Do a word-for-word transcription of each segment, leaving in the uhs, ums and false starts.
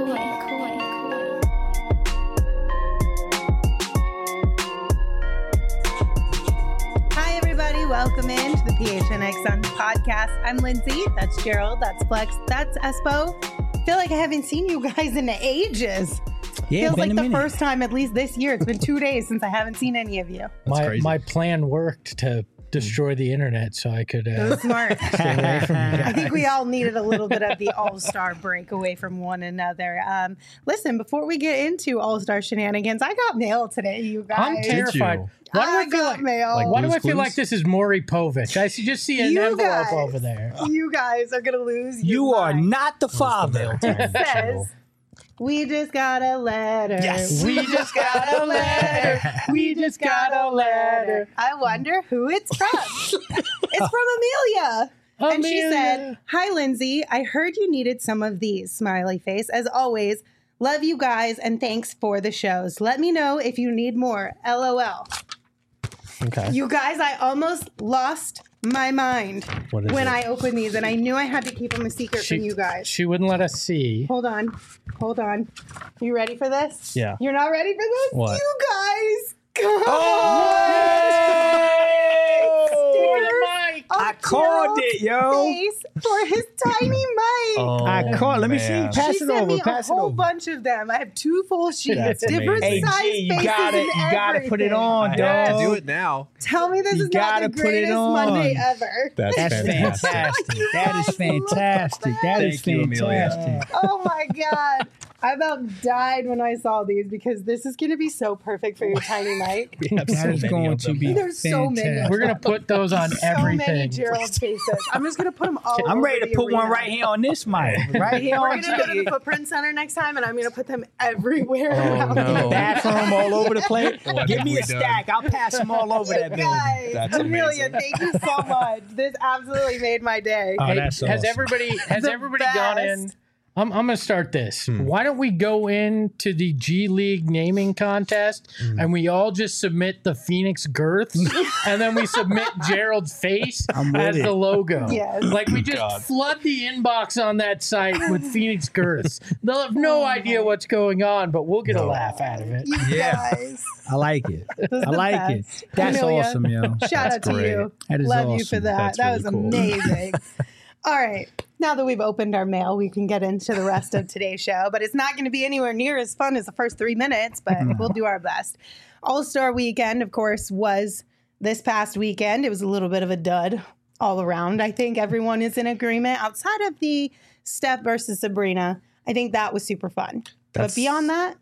Hi, everybody. Welcome in to the P H N X Suns podcast. I'm Lindsay. That's Gerald. That's Flex. That's Espo. I feel like I haven't seen you guys in ages. Yeah, Feels like the minute. first time, at least this year. It's been two days since I haven't seen any of you. My crazy. my plan worked to destroy the internet so I could It uh, was smart. stay away from you I guys. think we all needed a little bit of the all-star break away from one another. Um, listen, before we get into all-star shenanigans, I got mail today, you guys. I'm terrified. you? Why do I, I feel got like, mail. Like why do I Blue's feel Clues? like this is Maury Povich? I see- just see an You envelope guys. over there. You guys are going to lose your You are mind. not the father. It says, we just got a letter. Yes. We just got a letter. We just got a letter. I wonder who it's from. It's from Amelia. And she Amelia. said, hi, Lindsay. I heard you needed some of these. Smiley face. As always, love you guys and thanks for the shows. Let me know if you need more. LOL. Okay. You guys, I almost lost my mind What is when it? I opened these, and I knew I had to keep them a secret She, from you guys. she wouldn't let us see. Hold on. Hold on. You ready for this? Yeah. You're not ready for this? What? You guys. Come Mike. I called it, yo. Face for his tiny mic. Oh, I called. Let me see. man. Pass she it sent over. me a Pass it whole over. bunch of them. I have two full sheets, That's different amazing. size Hey, G, you faces got it. and You got to put it everything. on, I dog. have to do it now. Tell me this You is not the gotta put it greatest on. Monday ever. That's, That's fantastic. fantastic. That is guys look fantastic. That is Thank you, Amelia. fantastic. Oh my God. I about died when I saw these because this is going to be so perfect for your tiny mic. We have That so is many going of to them be now. There's so many. fantastic. We're going to put those on So many everything. Gerald faces. I'm just going to put them all I'm over ready to the put one arena. right here on this mic. Right here We're on going to go to the the Footprint Center next time, and I'm going to put them everywhere Oh, around no. here. bathroom all over the place. What Give have me we a done? stack. I'll pass them all over that building. Guys, That's Amelia, amazing. thank you so much. This absolutely made my day. Oh, Hey, that's has awesome. everybody has The everybody gone in? best. I'm, I'm going to start this. Hmm. Why don't we go into the G League naming contest Hmm. and we all just submit the Phoenix Girths and then we submit Gerald's face I'm with as it. the logo. Yes. Like we just God. flood the inbox on that site with Phoenix Girths. They'll have no Oh, idea my. what's going on, but we'll get a No. laugh out of it. You Yeah. guys. I like it. This is I the like best. it. That's Amelia, awesome, yo. Shout That's out to great. you. That is Love you for awesome. that. That's that really was cool. amazing. All right. Now that we've opened our mail, we can get into the rest of today's show. But it's not going to be anywhere near as fun as the first three minutes, but we'll do our best. All-Star Weekend, of course, was this past weekend. It was a little bit of a dud all around. I think everyone is in agreement. Outside of the Steph versus Sabrina, I think that was super fun. That's- but beyond that,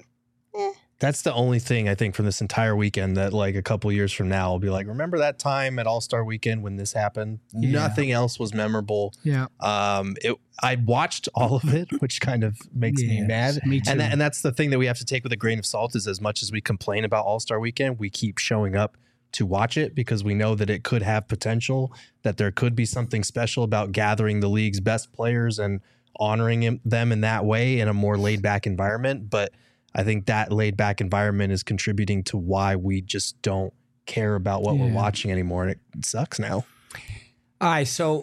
That's the only thing I think from this entire weekend that like a couple years from now I'll be like, remember that time at All-Star Weekend when this happened? Yeah. Nothing else was memorable. Yeah. Um, it, I watched all of it, which kind of makes me Yeah, mad. me too. And that, and that's the thing that we have to take with a grain of salt is as much as we complain about All-Star Weekend, we keep showing up to watch it because we know that it could have potential, that there could be something special about gathering the league's best players and honoring him, them in that way in a more laid back environment. But I think that laid back environment is contributing to why we just don't care about what we're Yeah. watching anymore. And it sucks now. All right, so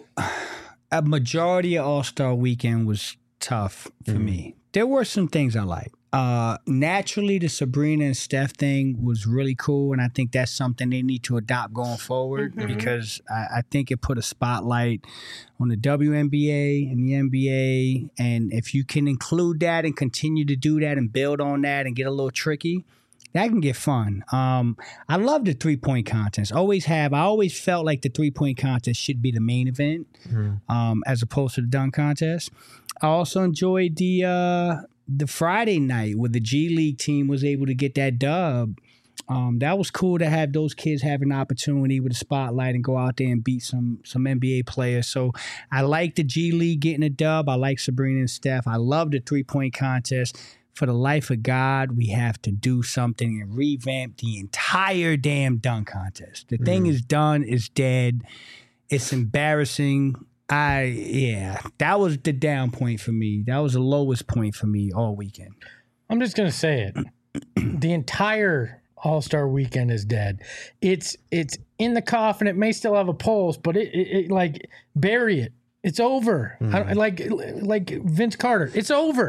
a majority of All-Star Weekend was tough for Mhm. me. There were some things I liked. Uh, naturally, the Sabrina and Steph thing was really cool, and I think that's something they need to adopt going forward Mhm. because I, I think it put a spotlight on the W N B A and the N B A, and if you can include that and continue to do that and build on that and get a little tricky, that can get fun. Um, I love the three-point contest. Always have. I always felt like the three-point contest should be the main event um, as opposed to the dunk contest. I also enjoyed the uh, the Friday night where the G League team was able to get that dub. Um, that was cool to have those kids have an opportunity with a spotlight and go out there and beat some some N B A players. So I like the G League getting a dub. I like Sabrina and Steph. I love the three-point contest. For the life of God, we have to do something and revamp the entire damn dunk contest. The thing is done, it's dead. It's embarrassing. I yeah, that was the down point for me. That was the lowest point for me all weekend. I'm just gonna say it. The entire All-Star Weekend is dead. It's it's in the coffin. It may still have a pulse, but it, it, it like bury it. It's over. I, like like Vince Carter. It's over.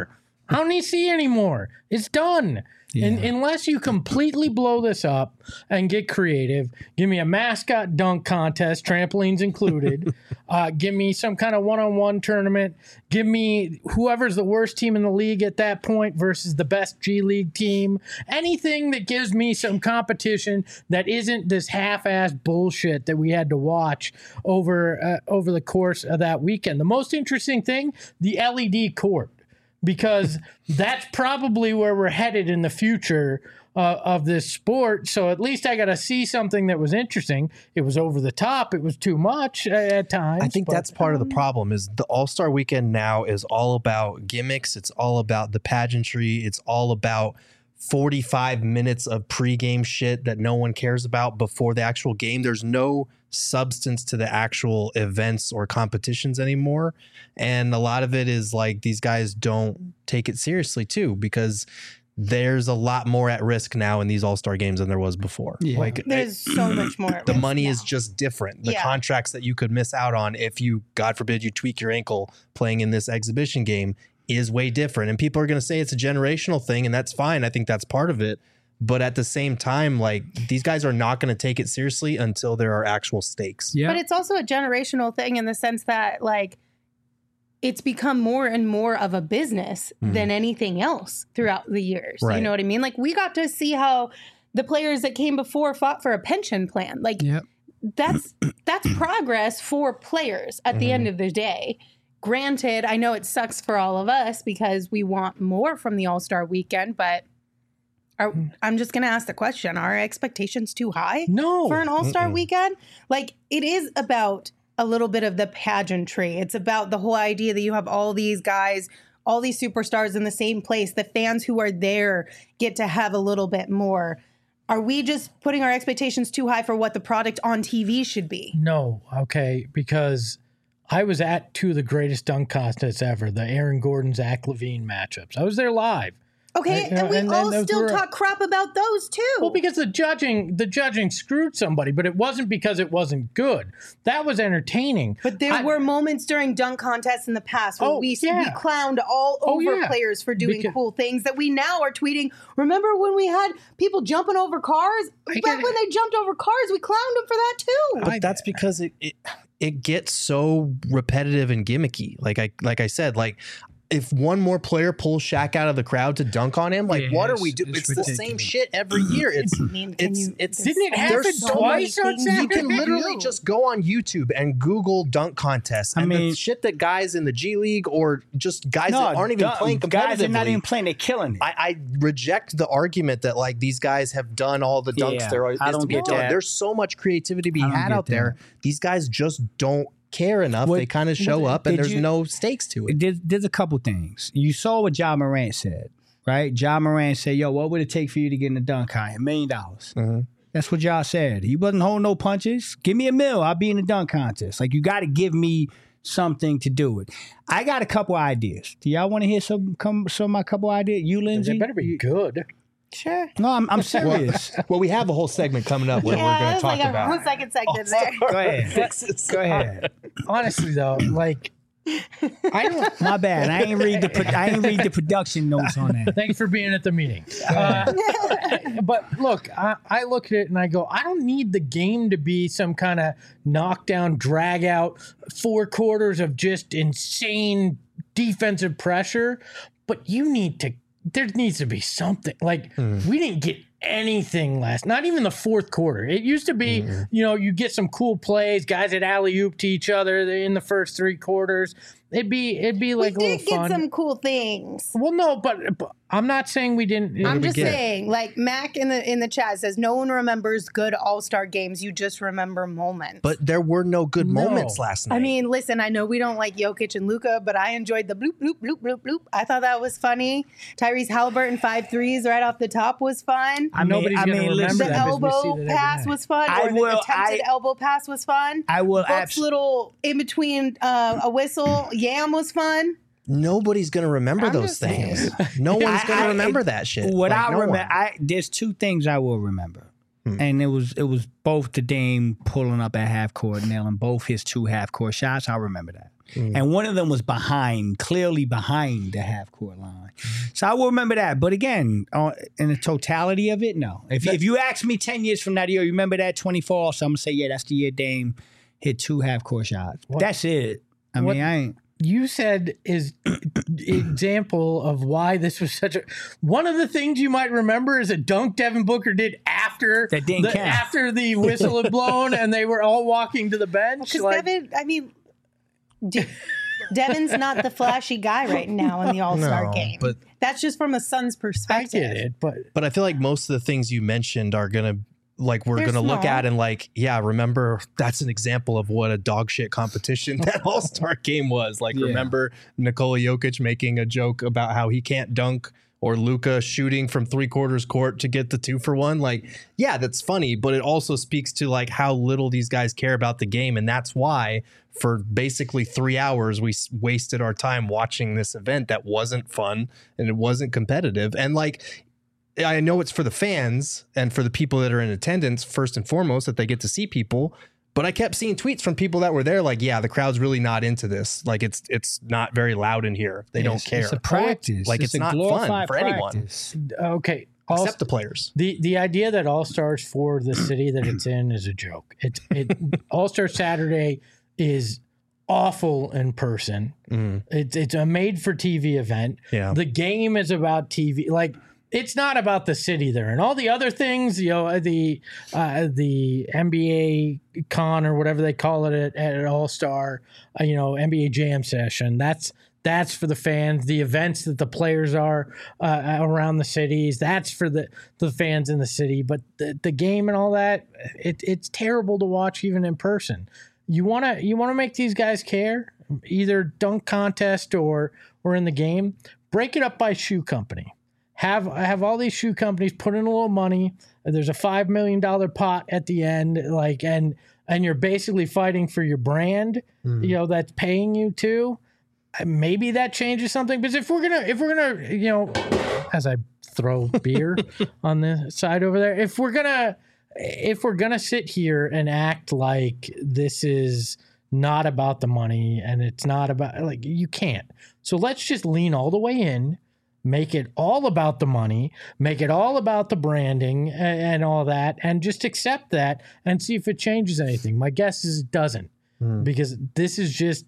I don't need to see anymore. It's done. Yeah. And unless you completely blow this up and get creative, give me a mascot dunk contest, trampolines included. uh, give me some kind of one-on-one tournament. Give me whoever's the worst team in the league at that point versus the best G League team. Anything that gives me some competition that isn't this half-ass bullshit that we had to watch over uh, over the course of that weekend. The most interesting thing, the L E D court. Because that's probably where we're headed in the future uh, of this sport. So at least I got to see something that was interesting. It was over the top. It was too much at times. I think but, that's part of the problem is the All-Star Weekend now is all about gimmicks. It's all about the pageantry. It's all about forty-five minutes of pregame shit that no one cares about before the actual game. There's no substance to the actual events or competitions anymore. And a lot of it is like these guys don't take it seriously too, because there's a lot more at risk now in these All-Star games than there was before. Yeah. Like There's so much more. At the risk money now. is just different. The Yeah. contracts that you could miss out on if you, God forbid, you tweak your ankle playing in this exhibition game is way different. And people are going to say it's a generational thing, and that's fine. I think that's part of it. But at the same time, like these guys are not going to take it seriously until there are actual stakes. Yeah. But it's also a generational thing in the sense that, like, it's become more and more of a business Mhm. than anything else throughout the years. Right. You know what I mean? Like, we got to see how the players that came before fought for a pension plan. Like, Yep. that's that's progress for players at the Mhm. end of the day. Granted, I know it sucks for all of us because we want more from the All-Star Weekend, but are, I'm just going to ask the question, are our expectations too high no. for an All-Star Mm-mm. Weekend? Like, it is about a little bit of the pageantry. It's about the whole idea that you have all these guys, all these superstars in the same place. The fans who are there get to have a little bit more. Are we just putting our expectations too high for what the product on T V should be? No, okay, because I was at two of the greatest dunk contests ever, the Aaron Gordon, Zach LaVine matchups. I was there live. Okay, Uh, and we and- and all those still were- talk crap about those too. Well, because the judging, the judging screwed somebody, but it wasn't because it wasn't good. That was entertaining. But there I- were moments during dunk contests in the past where Oh, we, yeah. we clowned all Oh, over yeah. players for doing Because- cool things that we now are tweeting. Remember when we had people jumping over cars? I Back get it. when they jumped over cars, we clowned them for that too. But that's because it, it it gets so repetitive and gimmicky. Like I like I said, like if one more player pulls Shaq out of the crowd to dunk on him, like Yeah, what are it's- we doing? it's It's, the same ridiculous. shit every year. It's I mean, can it's you, it's Didn't it there's happen so twice many on things Saturday? you can do. literally just go on YouTube and Google dunk contests I and mean- the shit that guys in the G League or just guys that aren't even duh, playing competitively. guys are not even playing. They're killing it. I, I reject the argument that like these guys have done all the dunks Yeah, there are I is to don't be get done. that. There's so much creativity to be I don't had get out there. These guys just don't care enough. What- they kind of show what- up and did there's you- no stakes to it. There's, there's a couple things. You saw what Ja Morant said, right? Ja Morant said, yo, what would it take for you to get in the dunk contest? A million dollars. Mhm. That's what Ja said. He wasn't holding no punches. Give me a mill. I'll be in the dunk contest. Like, you got to give me something to do it. I got a couple ideas. Do y'all want to hear some, come, some of my couple ideas? You, Lindsay? It better be good. Sure. No, I'm, I'm serious. Well, we have a whole segment coming up where Yeah, we're going to it's talk like about a second segment there. Go ahead. Go ahead. Honestly, though, like, I don't. My bad. I ain't read the pro- I ain't read the production notes on that. Thanks for being at the meeting. Uh, but look, I, I look at it and I go, I don't need the game to be some kind of knockdown, drag out, four quarters of just insane defensive pressure. But you need to, there needs to be something. Like, we didn't get anything last, not even the fourth quarter. It used to be, you know, you get some cool plays, guys at alley-oop to each other in the first three quarters. It'd be, it'd be like we a did little fun. get some cool things. Well, no, but, but I'm not saying we didn't. I'm just get it. saying, like Mac in the in the chat says, no one remembers good All Star games. You just remember moments. But there were no good No. moments last night. I mean, listen, I know we don't like Jokic and Luka, but I enjoyed the bloop, bloop, bloop, bloop, bloop. I thought that was funny. Tyrese Halliburton, five threes right off the top was fun. I mean, Nobody's I gonna mean, remember listen, The that because we see elbow that every pass night. was fun. I or the will- attempted I- elbow pass was fun. I will Book's absolutely. little in between uh, a whistle yam was fun. nobody's going to remember I'm those just saying. things. No one's I- going to I- remember that shit. What Like, I no remember, one. I there's two things I will remember. Hmm. And it was it was both the Dame pulling up at half court, nailing both his two half court shots. I remember that. Hmm. And one of them was behind, clearly behind the half court line. So I will remember that. But again, uh, in the totality of it, no. If, if you ask me ten years from now, do you remember that twenty-four? So I'm going to say, yeah, that's the year Dame hit two half court shots. What? That's it. I what? mean, I ain't. You said is example of why this was such a one of the things you might remember is a dunk Devin Booker did after that didn't the, count. after the whistle had blown and they were all walking to the bench. Because like, Devin, I mean, De- Devin's not the flashy guy right now in the All-Star no, game. But that's just from a Suns I perspective. get it, but but I feel like most of the things you mentioned are gonna. Like we're They're going to look small. at and like, yeah, remember that's an example of what a dog shit competition that All-Star game was. Like, Yeah. remember Nikola Jokic making a joke about how he can't dunk or Luka shooting from three quarters court to get the two for one. Like, yeah, that's funny, but it also speaks to like how little these guys care about the game. And that's why for basically three hours, we s- wasted our time watching this event that wasn't fun and it wasn't competitive. And like, I know it's for the fans and for the people that are in attendance, first and foremost, that they get to see people. But I kept seeing tweets from people that were there like, yeah, the crowd's really not into this. Like, it's it's not very loud in here. They don't It's- care. It's a practice. Like, it's, a not fun glorified for anyone, practice. okay. All, except the players. the the idea that All Stars for the city that it's in is a joke. It's it All Star Saturday is awful in person. Mm, It's it's a made for T V event. yeah. The game is about T V. Like it's not about the city there and all the other things. You know the uh, the N B A con or whatever they call it at, at All Star. Uh, you know N B A Jam session. That's that's for the fans. The events that the players are uh, around the cities. That's for the the fans in the city. But the the game and all that, it, it's terrible to watch even in person. You wanna you wanna make these guys care, either dunk contest or or in the game. Break it up by shoe company. Have have all these shoe companies put in a little money. There's a five million dollar pot at the end, like and and you're basically fighting for your brand. Mm. You know that's paying you too. Maybe that changes something. Because if we're gonna if we're gonna you know, as I throw beer on the side over there, if we're gonna if we're gonna sit here and act like this is not about the money and it's not about like you can't. So let's just lean all the way in. Make it all about the money, make it all about the branding and, and all that, and just accept that and see if it changes anything. My guess is it doesn't, Mm. because this is just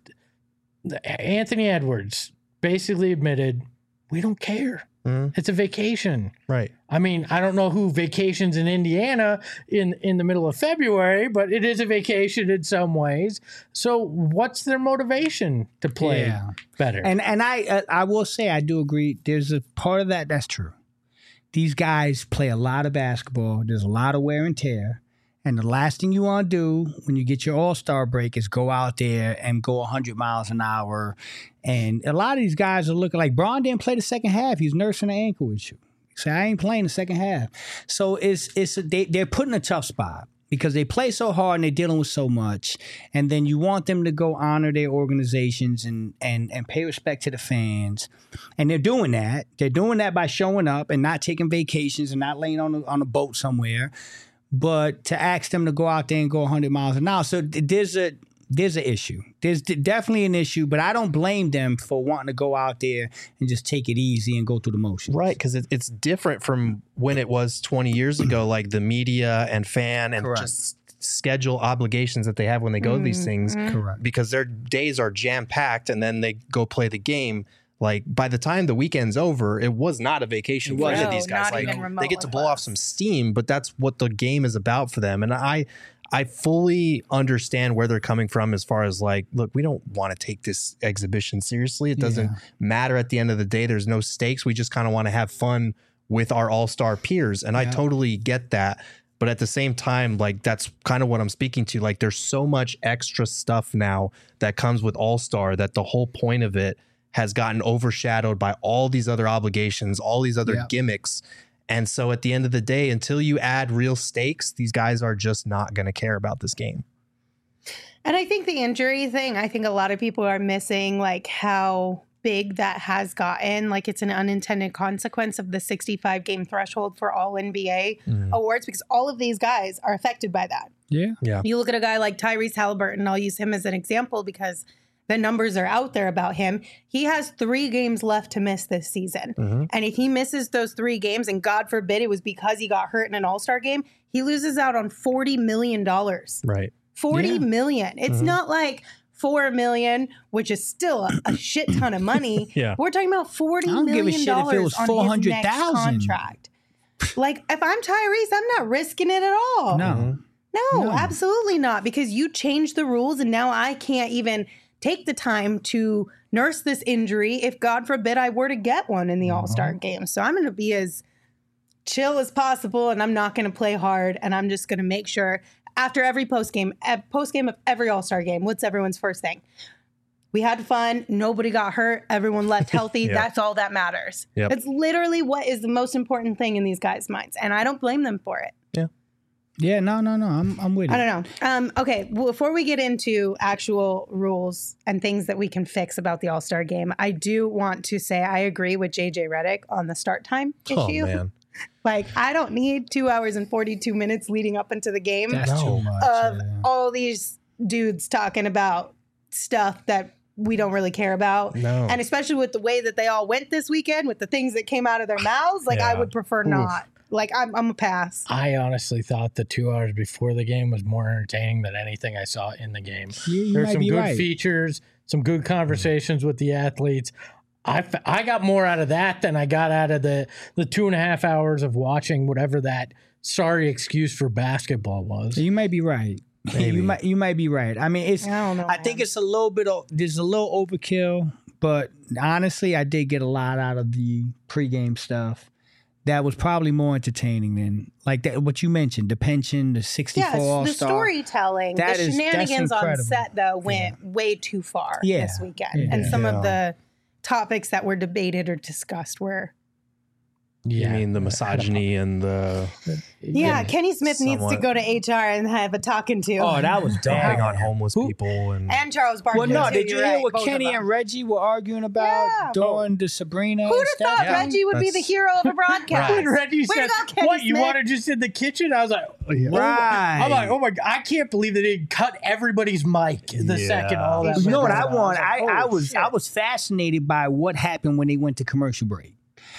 Anthony Edwards basically admitted we don't care. Mm. It's a vacation. Right. I mean, I don't know who vacations in Indiana in, in the middle of February, but it is a vacation in some ways. So what's their motivation to play Yeah. better? And and I uh, I will say I do agree. There's a part of that that's true. These guys play a lot of basketball. There's a lot of wear and tear. And the last thing you want to do when you get your All-Star break is go out there and go one hundred miles an hour. And a lot of these guys are looking like Bron didn't play the second half. He's nursing an ankle issue. So I ain't playing the second half. So it's it's they, they're put in a tough spot because they play so hard and they're dealing with so much. And then you want them to go honor their organizations and and and pay respect to the fans. And they're doing that. They're doing that by showing up and not taking vacations and not laying on a, on a boat somewhere. But to ask them to go out there and go one hundred miles an hour. So there's a there's an issue. There's definitely an issue, but I don't blame them for wanting to go out there and just take it easy and go through the motions. Right, because it, it's different from when it was twenty years ago, like the media and fan and Correct. just schedule obligations that they have when they go to these things. Correct. Because their days are jam-packed and then they go play the game. Like by the time the weekend's over, it was not a vacation for any of No, these guys. not Like even they get to remotely blow off close. some steam, but that's what the game is about for them. And I I fully understand where they're coming from as far as like, look, we don't want to take this exhibition seriously. It doesn't Yeah. matter at the end of the day. There's no stakes. We just kind of want to have fun with our all-star peers. And I Yeah. totally get that. But at the same time, like that's kind of what I'm speaking to. Like there's so much extra stuff now that comes with All-Star that the whole point of it has gotten overshadowed by all these other obligations, all these other Yeah. gimmicks. And so at the end of the day, until you add real stakes, these guys are just not going to care about this game. And I think the injury thing, I think a lot of people are missing like how big that has gotten. Like it's an unintended consequence of the sixty-five game threshold for all N B A Mm. awards because all of these guys are affected by that. Yeah. Yeah. You look at a guy like Tyrese Halliburton, I'll use him as an example because the numbers are out there about him. He has three games left to miss this season. Mhm. And if he misses those three games, and God forbid it was because he got hurt in an all-star game, he loses out on forty million dollars. Right. forty Yeah. million. It's Mhm. not like four million, which is still a, a shit ton of money. Yeah. We're talking about forty I don't give a million shit if it dollars was on his four hundred next thousand. contract. Like if I'm Tyrese, I'm not risking it at all. No. Mhm. No, No. absolutely not. Because you changed the rules and now I can't even take the time to nurse this injury if God forbid I were to get one in the All-Star game. So I'm going to be as chill as possible and I'm not going to play hard and I'm just going to make sure after every post game, post game of every All-Star game, what's everyone's first thing? We had fun. Nobody got hurt. Everyone left healthy. Yeah. That's all that matters. Yep. That's literally what is the most important thing in these guys' minds. And I don't blame them for it. Yeah, no, no, no. I'm I'm with you. I don't know. Um, okay, well, before we get into actual rules and things that we can fix about the All-Star game, I do want to say I agree with J J Redick on the start time Oh issue. man. Like, I don't need two hours and forty-two minutes leading up into the game That's No. too much. of yeah. all these dudes talking about stuff that we don't really care about. No. And especially with the way that they all went this weekend, with the things that came out of their mouths, like, I Yeah. would prefer not. Like, I'm, I'm a pass. I honestly thought the two hours before the game was more entertaining than anything I saw in the game. You, you There's might some be good right. features, some good conversations with the athletes. I, f- I got more out of that than I got out of the, the two and a half hours of watching whatever that sorry excuse for basketball was. You might be right. Maybe. you might you might be right. I mean, it's. I don't know. I think man. it's a little bit of there's a little overkill, but honestly, I did get a lot out of the pregame stuff. That was probably more entertaining than like that. What you mentioned, the pension, the sixty-four Yes, All the Star. storytelling, That the is- that's shenanigans on incredible. set though went way too far Yeah. this weekend, Yeah. and some Yeah. of the topics that were debated or discussed were. You mean the misogyny and the Yeah, Kenny Smith needs to somewhat. go to H R and have a talking to. Oh, that was dumping bad. on homeless Who- people and and Charles Barkley. Well, no, too, did you you're hear right, what both of Kenny them. and Reggie were arguing about Yeah. during the Sabrina? Who'd and have thought Steph Yeah. Reggie would be the That's- hero of a broadcast? When Reggie Way to said, go, Kenny "What you Smith." want to just in the kitchen?" I was like, oh, Right. I'm like, "Oh my god, I can't believe they didn't cut everybody's mic the Yeah. second all that." You know what went I down. want? was I, like, I "Holy was shit." I was fascinated by what happened when they went to commercial break.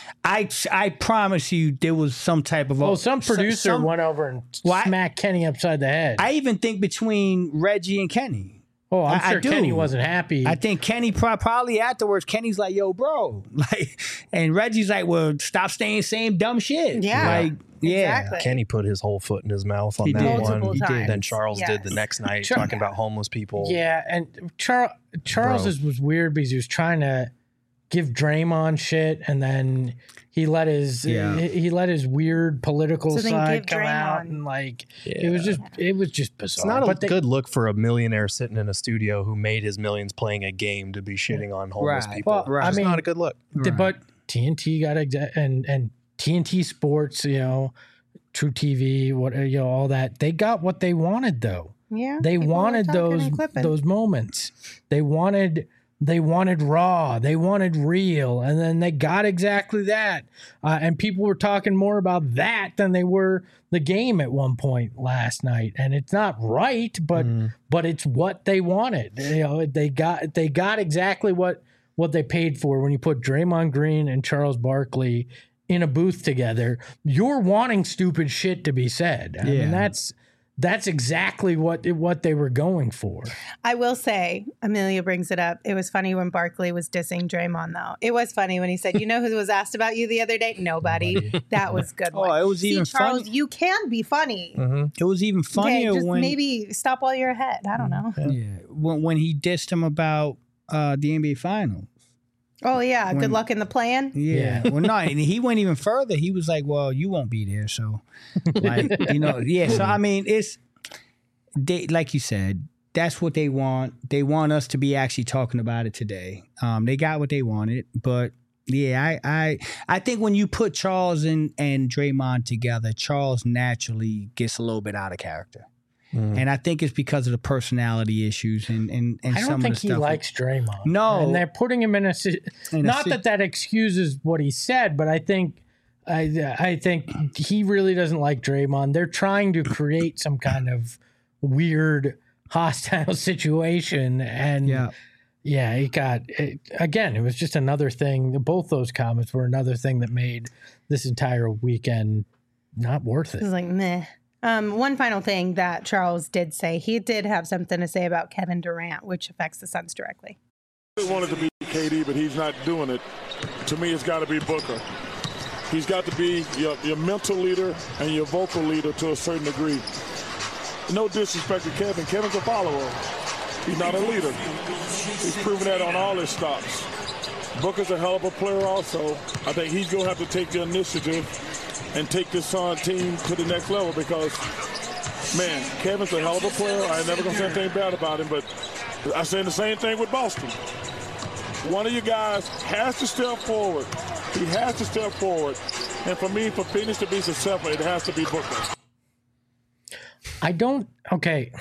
I I promise you there was some type of Well, some some- producer some- went over and Why- smacked Kenny upside the head. I even think between Reggie and Kenny. oh, I'm I- I sure do. Kenny wasn't happy. I think Kenny pro- probably afterwards. Kenny's like, "Yo, bro," like, and Reggie's like, "Well, stop saying same dumb shit." Yeah, like, yeah, exactly. Kenny put his whole foot in his mouth on He that did. one. Multiple He did. times. Then Charles did Yes. the next night Char- talking about homeless people. yeah, and Char- Charles's was weird because he was trying to give Draymond shit, and then he let his Yeah. he, he let his weird political So then side give come out, Draymond- and like it was just it was just bizarre. It's not a but they- good look for a millionaire sitting in a studio who made his millions playing a game to be shitting on homeless Right. people. Well, Right. I It's mean, not a good look. Th- But T N T got exa- and and T N T Sports, you know, True T V, what you know, all that. They got what they wanted though. Yeah, They people were wanted talking those and clipping. those moments. They wanted they wanted raw. They wanted real, and then they got exactly that. Uh, and people were talking more about that than they were the game at one point last night. And it's not right, but Mm. but it's what they wanted. You know, they got they got exactly what what they paid for when you put Draymond Green and Charles Barkley in a booth together. You're wanting stupid shit to be said. I Yeah. mean, that's that's exactly what what they were going for. I will say, Amelia brings it up. It was funny when Barkley was dissing Draymond, though. It was funny when he said, "You know who was asked about you the other day? Nobody." That was good. Oh, one. it was See, even Charles, funny- you can be funny. Mm-hmm. It was even Okay, funnier just when maybe stop while you're ahead. I don't know. yeah when when he dissed him about uh, the N B A Finals. Oh yeah, When- good luck in the plan. Yeah. Well, no, and he went even further. He was like, "Well, you won't be there, so like, you know, yeah." So I mean, it's they like you said. That's what they want. They want us to be actually talking about it today. Um, they got what they wanted, but yeah, I, I, I think when you put Charles and and Draymond together, Charles naturally gets a little bit out of character. Mm. And I think it's because of the personality issues and, and, and I some don't think of the he stuff. likes Draymond. No. And they're putting him in a in not a, that that excuses what he said, but I think I I think he really doesn't like Draymond. They're trying to create some kind of weird hostile situation, and yeah, yeah, it got it, again. It was just another thing. Both those comments were another thing that made this entire weekend not worth it. It was like meh. Um, one final thing that Charles did say, he did have something to say about Kevin Durant, which affects the Suns directly. He wanted to be K D, but he's not doing it. To me, it's got to be Booker. He's got to be your, your mental leader and your vocal leader to a certain degree. No disrespect to Kevin. Kevin's a follower. He's not a leader. He's proven that on all his stops. Booker's a hell of a player also. I think he's going to have to take the initiative and take this Sun team to the next level because, man, Kevin's a hell of a player. I ain't never going to say anything bad about him, but I'm saying the same thing with Boston. One of you guys has to step forward. He has to step forward. And for me, for Phoenix to be successful, it has to be Booker. I don't, okay.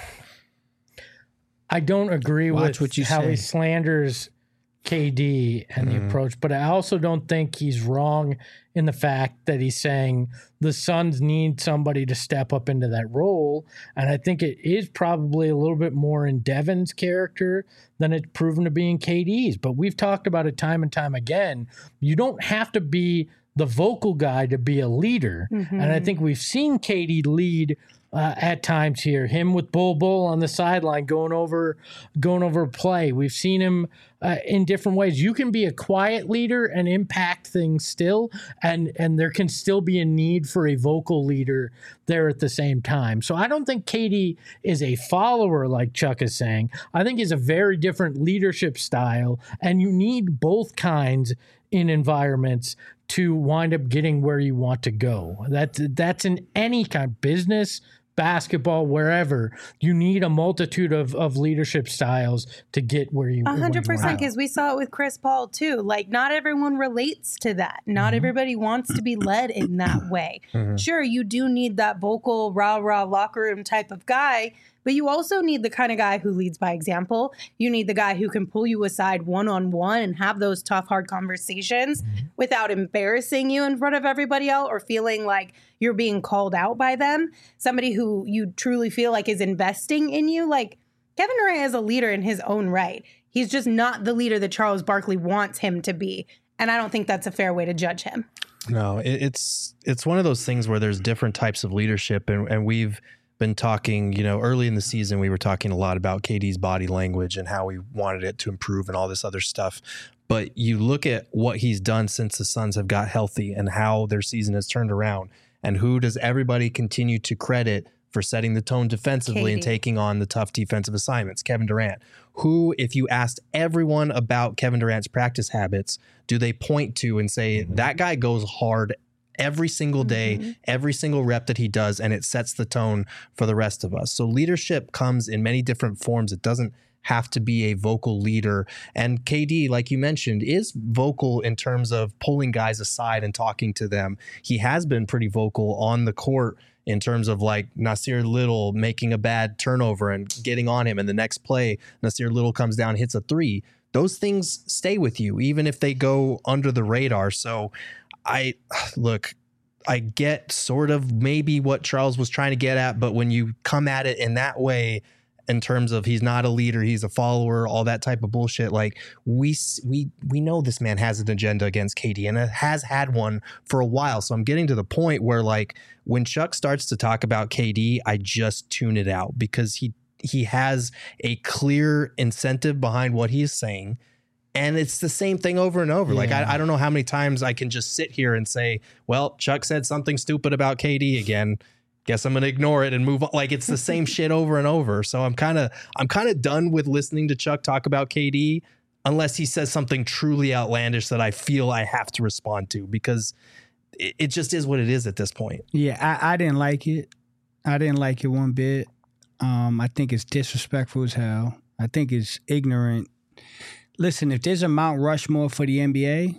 I don't agree Watch with what you how say. he slanders K D and Mm-hmm. the approach, but I also don't think he's wrong in the fact that he's saying the Suns need somebody to step up into that role. And I think it is probably a little bit more in Devin's character than it's proven to be in K D's. But we've talked about it time and time again. You don't have to be the vocal guy to be a leader. Mm-hmm. And I think we've seen K D lead Uh, at times here, him with Bull Bull on the sideline going over going over play. We've seen him uh, in different ways. You can be a quiet leader and impact things still, and and there can still be a need for a vocal leader there at the same time. So I don't think K D is a follower like Chuck is saying. I think he's a very different leadership style, and you need both kinds in environments to wind up getting where you want to go. That that's in any kind of business, basketball, wherever. You need a multitude of, of leadership styles to get where you A hundred where you percent, wanna go. because we saw it with Chris Paul too. Like, not everyone relates to that. Not Mm-hmm. everybody wants to be led in that way. Mhm. Sure, you do need that vocal, rah rah locker room type of guy, but you also need the kind of guy who leads by example. You need the guy who can pull you aside one on one and have those tough, hard conversations Mm-hmm. without embarrassing you in front of everybody else or feeling like you're being called out by them. Somebody who you truly feel like is investing in you. Like, Kevin Durant is a leader in his own right. He's just not the leader that Charles Barkley wants him to be. And I don't think that's a fair way to judge him. No, it, it's it's one of those things where there's different types of leadership, and, and we've been talking, you know, early in the season, we were talking a lot about K D's body language and how we wanted it to improve and all this other stuff. But you look at what he's done since the Suns have got healthy and how their season has turned around, and who does everybody continue to credit for setting the tone defensively K D. and taking on the tough defensive assignments? Kevin Durant, who, if you asked everyone about Kevin Durant's practice habits, do they point to and say, mm-hmm. that guy goes hard every single day, mm-hmm. every single rep that he does, and it sets the tone for the rest of us. So leadership comes in many different forms. It doesn't have to be a vocal leader. And K D, like you mentioned, is vocal in terms of pulling guys aside and talking to them. He has been pretty vocal on the court in terms of like Nasir Little making a bad turnover and getting on him. And the next play, Nasir Little comes down, hits a three. Those things stay with you, even if they go under the radar. So I look, I get sort of maybe what Charles was trying to get at, but when you come at it in that way, in terms of he's not a leader, he's a follower, all that type of bullshit, like we we we know this man has an agenda against K D and it has had one for a while. So I'm getting to the point where like when Chuck starts to talk about K D, I just tune it out because he he has a clear incentive behind what he is saying. And it's the same thing over and over. Yeah. Like, I, I don't know how many times I can just sit here and say, well, Chuck said something stupid about K D again. Guess I'm going to ignore it and move on. Like, it's the same shit over and over. So I'm kind of I'm kind of done with listening to Chuck talk about K D unless he says something truly outlandish that I feel I have to respond to, because it, it just is what it is at this point. Yeah, I, I didn't like it. I didn't like it one bit. Um, I think it's disrespectful as hell. I think it's ignorant. Listen, if there's a Mount Rushmore for the N B A,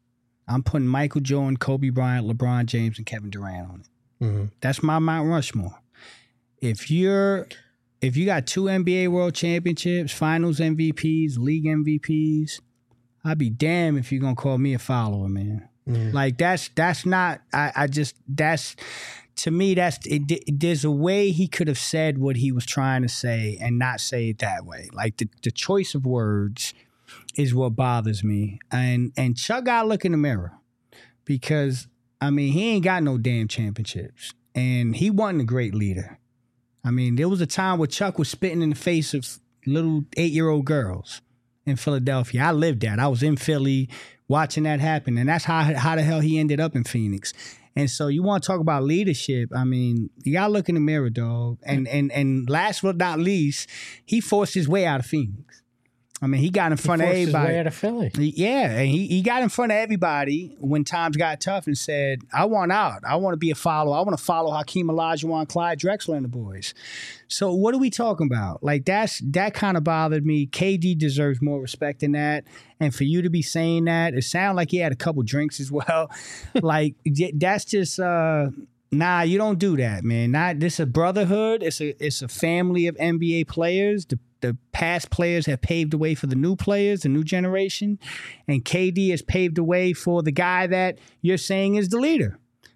I'm putting Michael Jordan, Kobe Bryant, LeBron James, and Kevin Durant on it. Mm-hmm. That's my Mount Rushmore. if you're if you got two N B A World Championships, Finals M V Ps, League M V Ps, I'd be damned if you're gonna call me a follower, man. Mm. Like that's that's not. I, I just that's to me that's it, it, there's a way he could have said what he was trying to say and not say it that way. Like the the choice of words is what bothers me. And and Chuck got to look in the mirror because I mean he ain't got no damn championships and he wasn't a great leader. I mean, there was a time where Chuck was spitting in the face of little eight-year-old girls in Philadelphia. I lived that. I was in Philly watching that happen, and that's how how the hell he ended up in Phoenix. And so you want to talk about leadership, I mean, you got to look in the mirror, dog. And, and, and last but not least, he forced his way out of Phoenix. I mean, he got in front he of forced everybody. His way out of Philly. Yeah, and he, he got in front of everybody when times got tough and said, I want out. I want to be a follower. I want to follow Hakeem Olajuwon, Clyde Drexler, and the boys. So what are we talking about? Like, that's that kind of bothered me. K D deserves more respect than that. And for you to be saying that, it sounded like he had a couple drinks as well. Like, that's just... uh Nah, you don't do that, man. Not this is a brotherhood. It's a it's a family of N B A players. The the past players have paved the way for the new players, the new generation, and K D has paved the way for the guy that you're saying is the leader.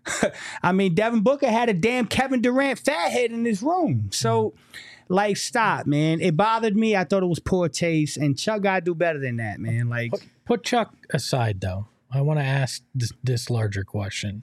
I mean, Devin Booker had a damn Kevin Durant fathead in his room. So, like, stop, man. It bothered me. I thought it was poor taste, and Chuck got to do better than that, man. Like, put, put Chuck aside, though. I want to ask this, this larger question.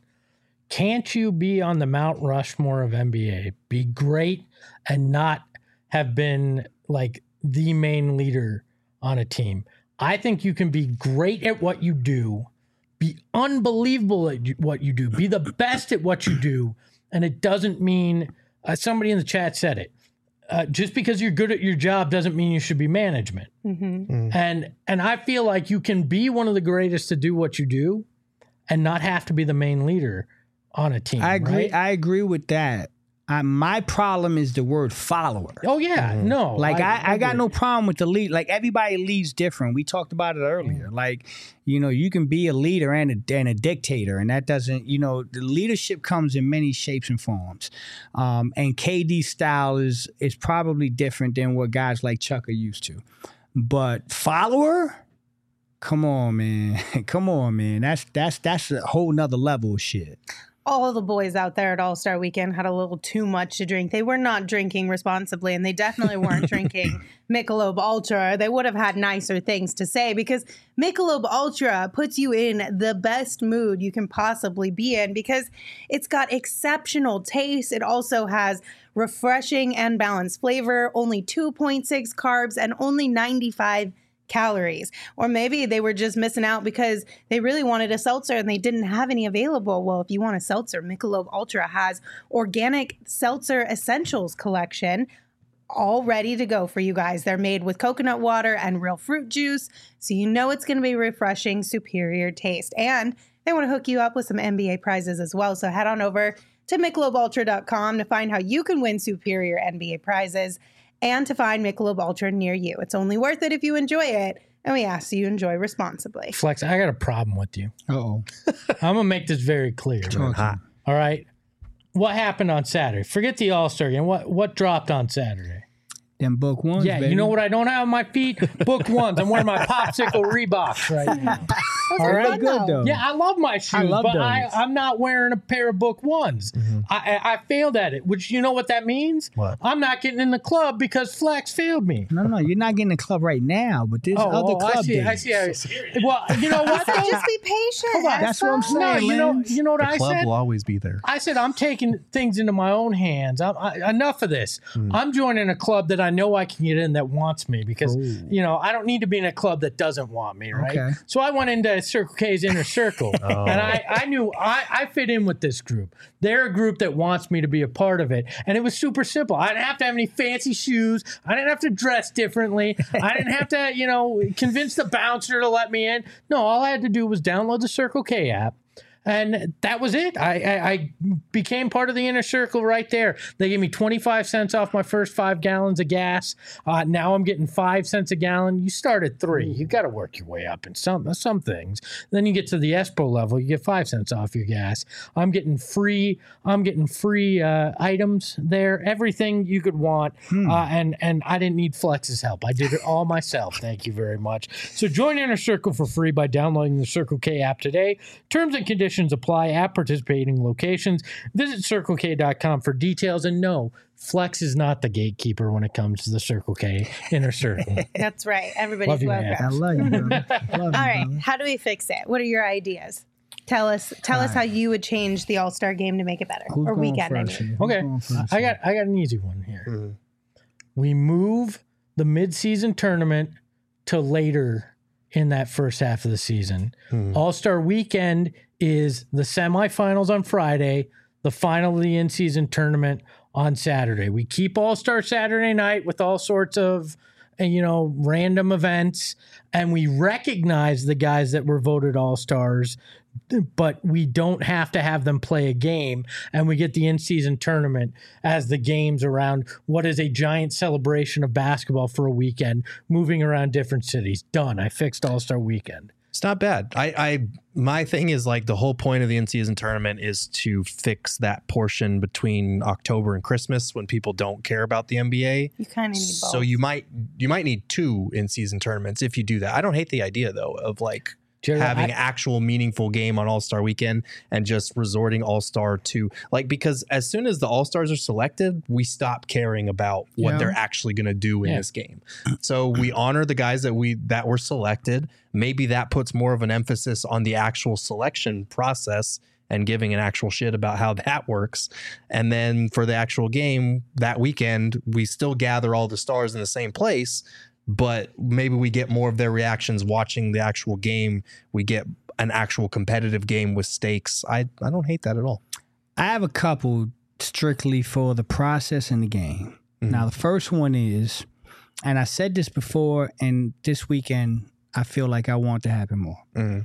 Can't you be on the Mount Rushmore of N B A, be great, and not have been like the main leader on a team? I think you can be great at what you do, be unbelievable at what you do, be the best at what you do, and it doesn't mean, uh, somebody in the chat said it, uh, just because you're good at your job doesn't mean you should be management. Mm-hmm. Mm. And and I feel like you can be one of the greatest to do what you do and not have to be the main leader on a team. I agree. Right? I agree with that. I, my problem is the word follower. Oh yeah, mm-hmm. no. Like I, I, I got agree. no problem with the lead. Like everybody leads different. We talked about it earlier. Mm-hmm. Like, you know, you can be a leader and a, and a dictator, and that doesn't, you know, the leadership comes in many shapes and forms. Um, and K D's style is is probably different than what guys like Chuck are used to. But follower. Come on, man. Come on, man. That's that's that's a whole nother level of shit. All the boys out there at All-Star Weekend had a little too much to drink. They were not drinking responsibly, and they definitely weren't drinking Michelob Ultra. They would have had nicer things to say because Michelob Ultra puts you in the best mood you can possibly be in because it's got exceptional taste. It also has refreshing and balanced flavor, only two point six carbs, and only ninety-five calories. Or maybe they were just missing out because they really wanted a seltzer and they didn't have any available. Well, if you want a seltzer, Michelob Ultra has Organic Seltzer Essentials collection all ready to go for you guys. They're made with coconut water and real fruit juice, so you know it's going to be refreshing, superior taste. And they want to hook you up with some N B A prizes as well. So head on over to Michelob Ultra dot com to find how you can win superior N B A prizes and to find Michelob Ultra near you. It's only worth it if you enjoy it, and we ask you enjoy responsibly. Flex, I got a problem with you. Uh-oh. I'm going to make this very clear. Hot. All right? What happened on Saturday? Forget the All-Star game. What, what dropped on Saturday? Them book ones, Yeah, baby. you know what I don't have on my feet? Book ones. I'm wearing my popsicle Reeboks right now. All right, good though. Yeah, I love my shoes, I love but those. I, I'm not wearing a pair of book ones. Mm-hmm. I, I, I failed at it, which you know what that means? What? I'm not getting in the club because Flex failed me. No, no, you're not getting in the club right now, but there's Oh, other oh, club I see. days. I see. I, well, you know what? So though? just be patient. Hold on. Have That's what I'm fun. No, saying, you know, Lance. you know what The I club said? will always be there. I said, I'm taking things into my own hands. I'm, I, enough of this. Mm. I'm joining a club that I know I can get in that wants me because, Ooh. you know, I don't need to be in a club that doesn't want me, right? Okay. So I went into Circle K's Inner Circle, oh. and I, I knew I, I fit in with this group. They're a group that wants me to be a part of it. And it was super simple. I didn't have to have any fancy shoes. I didn't have to dress differently. I didn't have to, you know, convince the bouncer to let me in. No, all I had to do was download the Circle K app. And that was it. I, I, I became part of the inner circle right there. They gave me twenty-five cents off my first five gallons of gas. Uh, now I'm getting five cents a gallon. You start at three. You got to work your way up in some some things. Then you get to the Espo level. You get five cents off your gas. I'm getting free. I'm getting free uh, items there. Everything you could want. Hmm. Uh, and and I didn't need Flex's help. I did it all myself. Thank you very much. So join Inner Circle for free by downloading the Circle K app today. Terms and conditions apply at participating locations. Visit Circle K dot com for details. And no, Flex is not the gatekeeper when it comes to the Circle K Inner Circle. That's right. Everybody's welcome. I love you, bro. Love All right. Brother. How do we fix it? What are your ideas? Tell us tell All us right. how you would change the All-Star game to make it better. Who's or weekend. I mean. Okay. I got I got an easy one here. Mm-hmm. We move the mid-season tournament to later in that first half of the season. Mm-hmm. All-Star weekend is the semifinals on Friday, the final of the in-season tournament on Saturday. We keep All-Star Saturday night with all sorts of, you know, random events, and we recognize the guys that were voted All-Stars, but we don't have to have them play a game, and we get the in-season tournament as the games around what is a giant celebration of basketball for a weekend, moving around different cities. Done. I fixed All-Star weekend. It's not bad. I, I, my thing is like the whole point of the in-season tournament is to fix that portion between October and Christmas when people don't care about the N B A. You kind of need both. So you might, you might need two in-season tournaments if you do that. I don't hate the idea though of like Jerry, having I, actual meaningful game on All-Star weekend and just resorting All-Star to like, because as soon as the All-Stars are selected, we stop caring about what yeah. they're actually going to do in yeah. this game. So we honor the guys that we, that were selected. Maybe that puts more of an emphasis on the actual selection process and giving an actual shit about how that works. And then for the actual game that weekend, we still gather all the stars in the same place, but maybe we get more of their reactions watching the actual game. We get an actual competitive game with stakes. I, I don't hate that at all. I have a couple strictly for the process in the game. Mm-hmm. Now, the first one is, and I said this before, and this weekend, I feel like I want to happen more. Mm-hmm.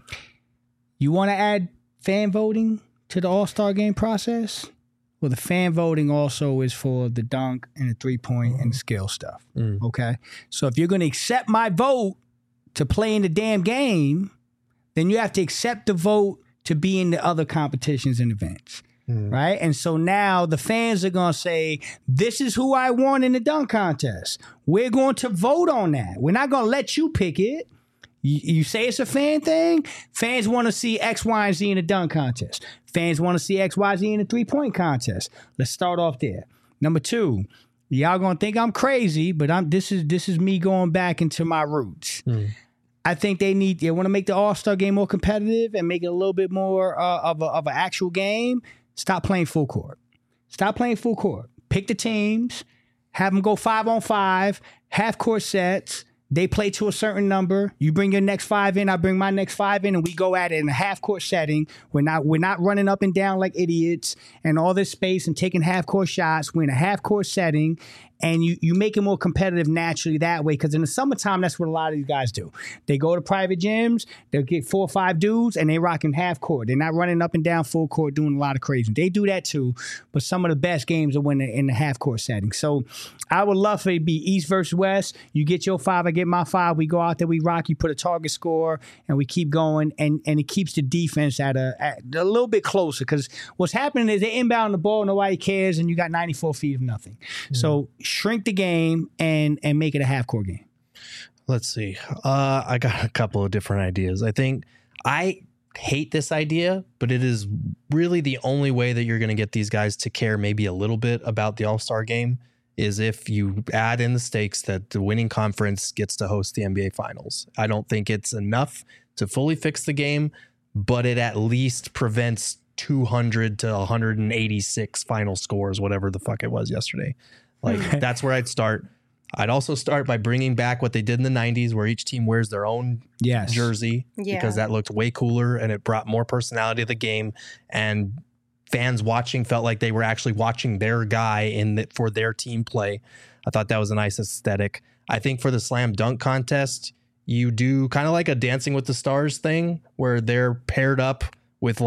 You want to add fan voting to the All-Star game process? Well, the fan voting also is for the dunk and the three-point mm-hmm. and skill stuff, mm. okay? So if you're going to accept my vote to play in the damn game, then you have to accept the vote to be in the other competitions and events, mm. right? And so now the fans are going to say, this is who I want in the dunk contest. We're going to vote on that. We're not going to let you pick it. You, you say it's a fan thing. Fans want to see X, Y, and Z in the dunk contest. Fans want to see X, Y, Z in the three-point contest. Let's start off there. Number two, y'all gonna think I'm crazy, but I'm. This is this is me going back into my roots. Mm. I think they need. They want to make the All-Star game more competitive and make it a little bit more uh, of a, of an actual game. Stop playing full court. Stop playing full court. Pick the teams. Have them go five on five. Half court sets. They play to a certain number. You bring your next five in, I bring my next five in, and we go at it in a half-court setting. We're not we're not running up and down like idiots and all this space and taking half-court shots. We're in a half-court setting, and you, you make it more competitive naturally that way, because in the summertime, that's what a lot of these guys do. They go to private gyms, they'll get four or five dudes, and they rocking half-court. They're not running up and down full court doing a lot of crazy. They do that too, but some of the best games are when they're in the half-court setting. So I would love for it to be East versus West. You get your five, I get my five. We go out there, we rock. You put a target score, and we keep going. And, and it keeps the defense at a at a little bit closer. Because what's happening is they inbound the ball, nobody cares, and you got ninety-four feet of nothing. Mm-hmm. So shrink the game and and make it a half court game. Let's see. Uh, I got a couple of different ideas. I think I hate this idea, but it is really the only way that you're going to get these guys to care maybe a little bit about the All-Star game. Is if you add in the stakes that the winning conference gets to host the N B A Finals. I don't think it's enough to fully fix the game, but it at least prevents two hundred to one hundred eighty-six final scores, whatever the fuck it was yesterday. Like, that's where I'd start. I'd also start by bringing back what they did in the nineties, where each team wears their own yes. jersey, yeah. because that looked way cooler and it brought more personality to the game. And fans watching felt like they were actually watching their guy in the, for their team play. I thought that was a nice aesthetic. I think for the slam dunk contest, you do kind of like a Dancing with the Stars thing where they're paired up with like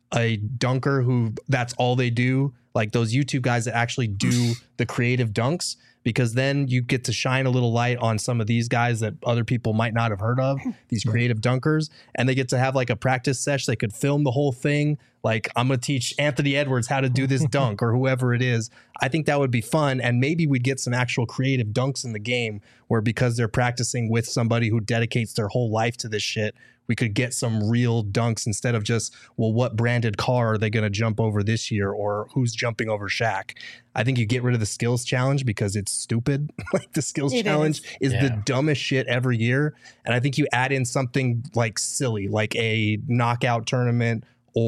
a dunker who that's all they do, like those YouTube guys that actually do the creative dunks, because then you get to shine a little light on some of these guys that other people might not have heard of, these creative dunkers, and they get to have like a practice session. They could film the whole thing. Like, I'm going to teach Anthony Edwards how to do this dunk or whoever it is. I think that would be fun. And maybe we'd get some actual creative dunks in the game where, because they're practicing with somebody who dedicates their whole life to this shit, we could get some real dunks instead of just, well, what branded car are they going to jump over this year, or who's jumping over Shaq? I think you get rid of the skills challenge because it's stupid. Like, the skills It challenge is, is Yeah. the dumbest shit every year. And I think you add in something like silly, like a knockout tournament,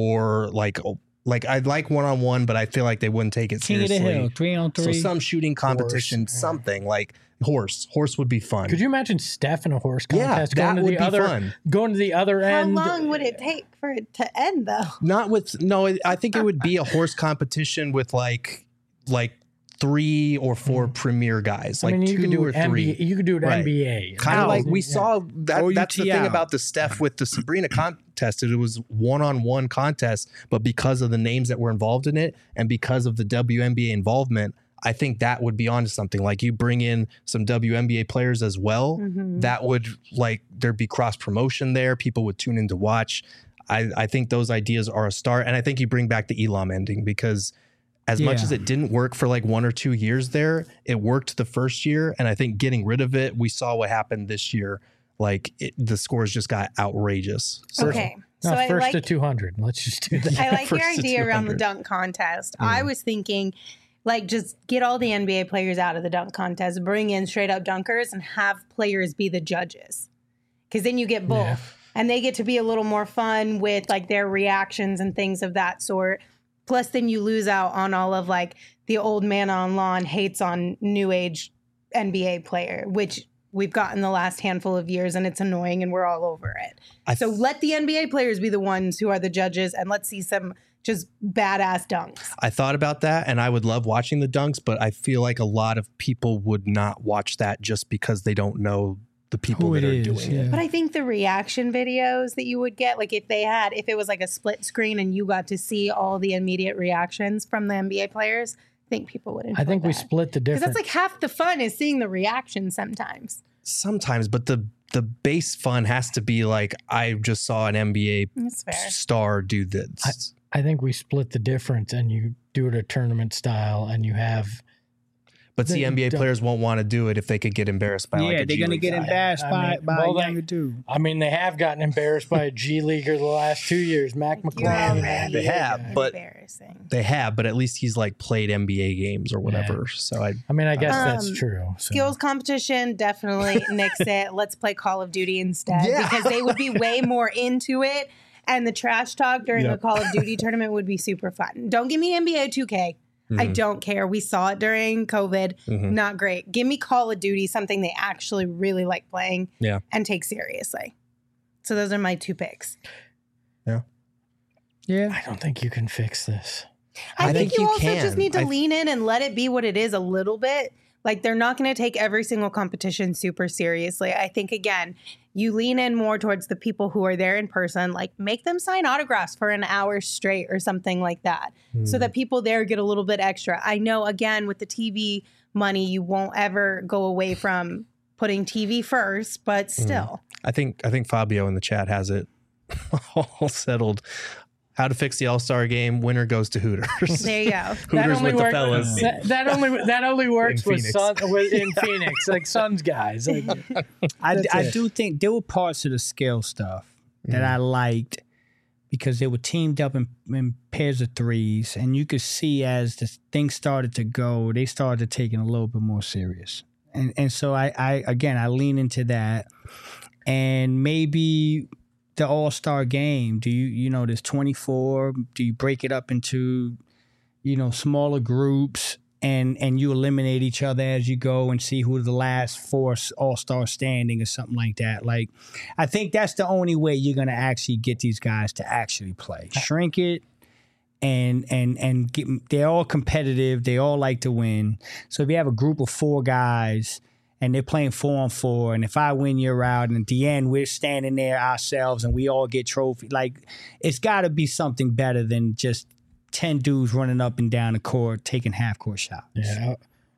or like, like I'd like one-on-one, but I feel like they wouldn't take it King of seriously. the Hill, three on So three. some shooting competition, Horse, yeah. something like horse. Horse would be fun. Could you imagine Steph in a horse Yeah, contest that going to would the be other fun. going to the other How end? long would it take for it to end, though? Not with no. I think it would be a horse competition with like like three or four premier guys, I like mean, you two could do or it three. N B A. You could do it Right. N B A. Kind of like we Yeah. saw that. Or That's the U T thing L. about the Steph with the Sabrina contest. It was one-on-one contest, but because of the names that were involved in it, and because of the W N B A involvement, I think that would be onto something. Like, you bring in some W N B A players as well. Mhm. That would, like, there'd be cross promotion there. People would tune in to watch. I, I think those ideas are a start. And I think you bring back the Elam ending, because as much Yeah. as it didn't work for like one or two years there, it worked the first year. And I think getting rid of it, we saw what happened this year. Like, it, the scores just got outrageous. So, Okay. No, So I first like to two hundred. Let's just do that. I like your First to idea around the two hundred. dunk contest. I was thinking, like, just get all the N B A players out of the dunk contest, bring in straight up dunkers, and have players be the judges. Because then you get both. Yeah. And they get to be a little more fun with, like, their reactions and things of that sort. Plus, then you lose out on all of, like, the old man on lawn hates on new age N B A player, which we've gotten the last handful of years, and it's annoying, and we're all over it. I So let the N B A players be the ones who are the judges, and let's see some just badass dunks. I thought about that, and I would love watching the dunks, but I feel like a lot of people would not watch that just because they don't know the people Who that it are is, doing yeah. it. But I think the reaction videos that you would get, like if they had, if it was like a split screen and you got to see all the immediate reactions from the N B A players, I think people would enjoy I think we that. split the Because difference. that's like half the fun is seeing the reaction sometimes. Sometimes, but the the base fun has to be like, I just saw an N B A That's fair. star do this. I think we split the difference, and you do it a tournament style, and you have. But see, They N B A don't- players won't want to do it if they could get embarrassed by yeah, like a they're G gonna League get guy. embarrassed I by mean, by well, a they- younger dude. I mean, they have gotten embarrassed by a G leaguer the last two years, Mac You're McClung. already They have, but- embarrassing. They have, but at least he's like played N B A games or whatever. So I I mean, I guess Um, that's true. so. Skills competition, definitely nix it. Let's play Call of Duty instead Yeah. because they would be way more into it. And the trash talk during Yep. the Call of Duty tournament would be super fun. Don't give me N B A two K. I Mhm. don't care. We saw it during COVID. Mhm. Not great. Give me Call of Duty, something they actually really like playing Yeah. and take seriously. So those are my two picks. Yeah, I don't think you can fix this. I, I think, think you, you also can. just need to I- lean in and let it be what it is a little bit. Like, they're not going to take every single competition super seriously. I think, again, you lean in more towards the people who are there in person, like make them sign autographs for an hour straight or something like that, so Hmm. that people there get a little bit extra. I know, again, with the T V money, you won't ever go away from putting T V first, but still. I think I think Fabio in the chat has it all settled. How to fix the All Star game? Winner goes to Hooters. There you go. That Hooters only with the works. fellas. That, that only that only works In with Phoenix. Sun, with, in Phoenix, like Suns guys. Like, I, That's I it. do think there were parts of the skill stuff that I liked because they were teamed up in, in pairs of threes, and you could see as the things started to go, they started taking a little bit more serious. And and so I, I again I lean into that, and maybe the All-Star game. Do you you know there's twenty-four? Do you break it up into you know smaller groups? And and you eliminate each other as you go and see who the last four all-star standing or something like that. Like, I think that's the only way you're gonna actually get these guys to actually play. Shrink it, and and and get, they're all competitive. They all like to win. So if you have a group of four guys and they're playing four on four. And if I win, you're out. And at the end, we're standing there ourselves and we all get trophy. Like, it's got to be something better than just ten dudes running up and down the court, taking half court shots. Yeah.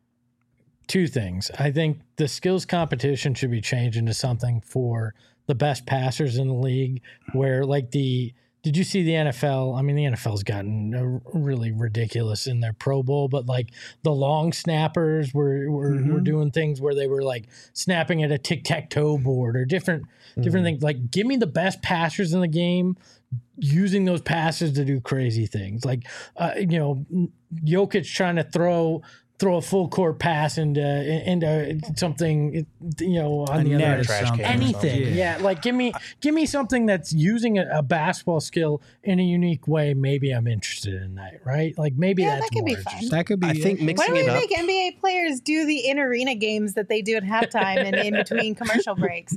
Two things. I think the skills competition should be changed into something for the best passers in the league, where like the, did you see the N F L? I mean, the N F L's gotten really ridiculous in their Pro Bowl, but like the long snappers were were, mm-hmm. were doing things where they were like snapping at a tic-tac-toe board or different mm-hmm. different things. Like, give me the best passers in the game using those passes to do crazy things. Like, uh, you know, Jokic trying to throw throw a full court pass into into something, you know, on the other trash can, anything. Yeah. yeah, like give me give me something that's using a, a basketball skill in a unique way. Maybe I'm interested in that, right? Like maybe yeah, that's that could more be fun. That could be. I think mixing Why it don't we up. make N B A players do the in arena games that they do at halftime and in between commercial breaks?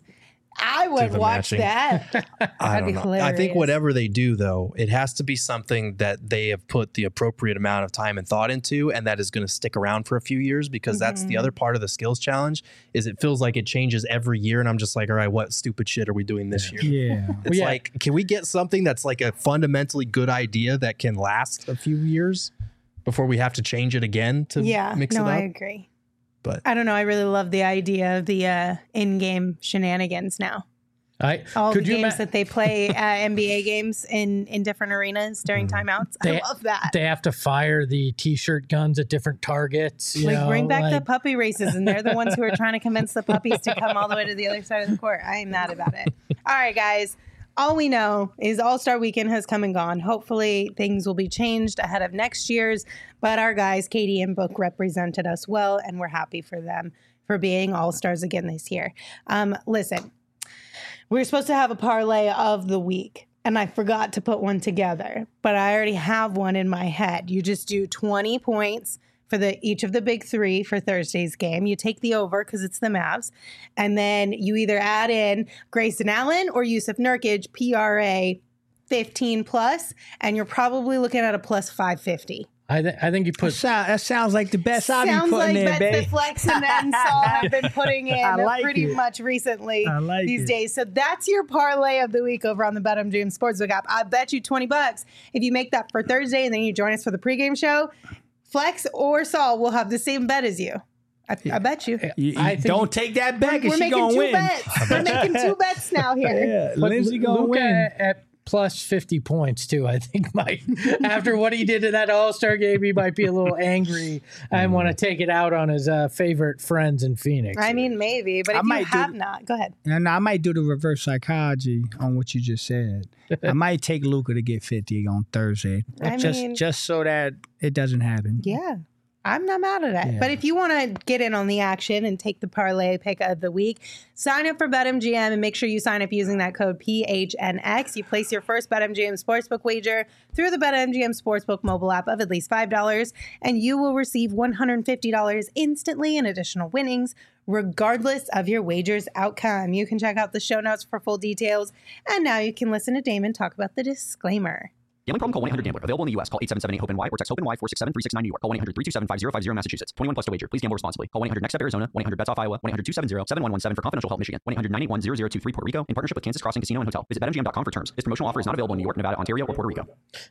I would the watch matching. that. I That'd be don't know. hilarious. I think whatever they do, though, it has to be something that they have put the appropriate amount of time and thought into, and that is going to stick around for a few years. Because mm-hmm. that's the other part of the skills challenge. Is it feels like it changes every year, and I'm just like, all right, what stupid shit are we doing this year? Yeah, it's yeah. like, can we get something that's like a fundamentally good idea that can last a few years before we have to change it again to yeah, mix no, it up? I agree. But I don't know. I really love the idea of the uh, in-game shenanigans now. I, All could the you games ima- that they play at N B A games in, in different arenas during timeouts. They- I love that. They have to fire the T-shirt guns at different targets. You Like, know, bring back like, the puppy races, and they're the ones who are trying to convince the puppies to come all the way to the other side of the court. I am mad about it. All right, guys. All we know is All-Star Weekend has come and gone. Hopefully, things will be changed ahead of next year's. But our guys, Katie and Book, represented us well, and we're happy for them for being All-Stars again this year. Um, listen. We were supposed to have a parlay of the week, and I forgot to put one together, but I already have one in my head. You just do twenty points for the each of the big three for Thursday's game. You take the over because it's the Mavs, and then you either add in Grayson Allen or Yusuf Nurkic, P R A fifteen plus, and you're probably looking at a plus five fifty. I, th- I think you that, put. sound, that sounds like the best I've been Sounds putting like in, bets baby. that Flex and then Saul have been putting in I like pretty it. much recently I like these it. days. So that's your parlay of the week over on the BetMGM Sportsbook app. I bet you twenty bucks if you make that for Thursday and then you join us for the pregame show. Flex or Saul will have the same bet as you. I, I bet you. You- you I think- don't take that back, We're and she making gonna two win. bets. We're making two bets now here. Yeah, But Lindsay gonna Luka win. at, at plus fifty points too. I think might after what he did in that All-Star game, he might be a little angry and want to take it out on his uh, favorite friends in Phoenix. I mean, maybe, but I if you might do have the- not, go ahead. And I might do the reverse psychology on what you just said. I might take Luka to get fifty on Thursday, I just mean- just so that it doesn't happen. Yeah. I'm not mad at it. Yeah. But if you want to get in on the action and take the parlay pick of the week, sign up for BetMGM and make sure you sign up using that code P H N X. You place your first BetMGM Sportsbook wager through the BetMGM Sportsbook mobile app of at least five dollars, and you will receive one hundred fifty dollars instantly in additional winnings, regardless of your wager's outcome. You can check out the show notes for full details. And now you can listen to Damon talk about the disclaimer. Gambling problem? Call one eight hundred gambler. Available in the U S. Call eight seven seven eight HOPE-NY or text HOPE-NY four six seven three six nine New York. Call one eight hundred three two seven five zero five zero Massachusetts. twenty-one plus to wager. Please gamble responsibly. Call one eight hundred next step Arizona. one eight hundred bets off Iowa. one eight hundred two seven zero seven one one seven for confidential help Michigan. one eight hundred nine eight one zero zero two three Puerto Rico in partnership with Kansas Crossing Casino and Hotel. Visit bet M G M dot com for terms. This promotional offer is not available in New York, Nevada, Ontario, or Puerto Rico.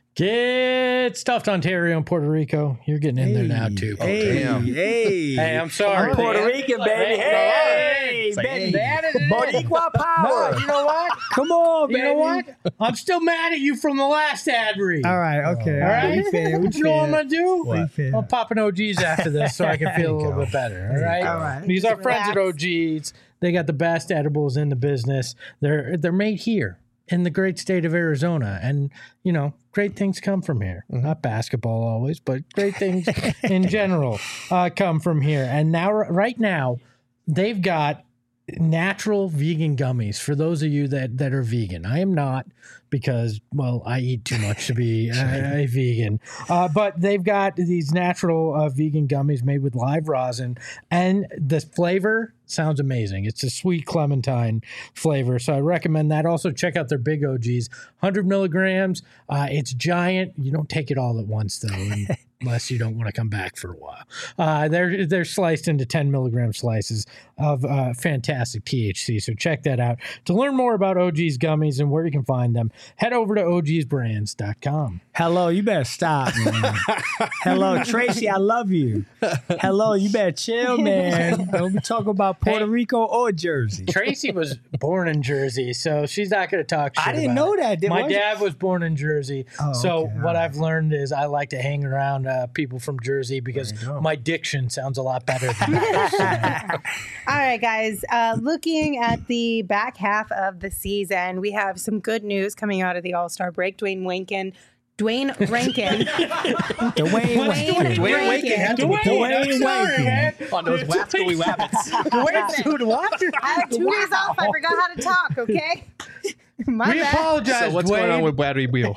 Get stuffed Ontario and Puerto Rico. You're getting in there now too. Hey, damn. hey, Hey, I'm sorry. I'm Puerto man. Rican, baby. Hey, Hey, baby. They added it in. Boricua power. No, you know what? Come on, baby. You know what? I'm still mad at you from the last ad read. All right, okay. All right? We fair, we You know what I'm fair. going to do? We fair. I'll pop an O G's after this so I can feel a little bit better. All right? All right. These are Just friends at O relax. G's. They got the best edibles in the business. They're they're made here in the great state of Arizona. And, you know, great things come from here. Not basketball always, but great things in general uh, come from here. And now, right now, they've got natural vegan gummies for those of you that that are vegan. I am not, because, well, I eat too much to be a, a vegan. Uh, but they've got these natural uh, vegan gummies made with live rosin, and the flavor sounds amazing. It's a sweet clementine flavor, so I recommend that. Also, check out their Big O Gs, one hundred milligrams. Uh, it's giant. You don't take it all at once, though, and, unless you don't want to come back for a while. Uh, they're they're sliced into ten milligram slices of uh, fantastic T H C, so check that out. To learn more about O G's gummies and where you can find them, head over to O Gs brands dot com. Hello, you better stop, man. Hello, Tracy, I love you. Hello, you better chill, man. Don't be talking about Puerto Hey. Rico or Jersey. Tracy was born in Jersey, so she's not going to talk shit I didn't about know it. that. Did- My was- dad was born in Jersey, Oh, so okay, what all I've learned is I like to hang around uh, people from Jersey because my diction sounds a lot better than that. All right, guys. Uh, looking at the back half of the season, we have some good news coming out of the All-Star break. Dwayne Rankin. Dwayne Rankin. Dwayne Dwayne Rankin. Dwayne Rankin had to be Dwayne Rankin. on those wascally wabbits. Wait, dude, what? I had two days off. I forgot how to talk, okay? My We bad. apologize, So what's Dwayne. going on with Bradley Wheel?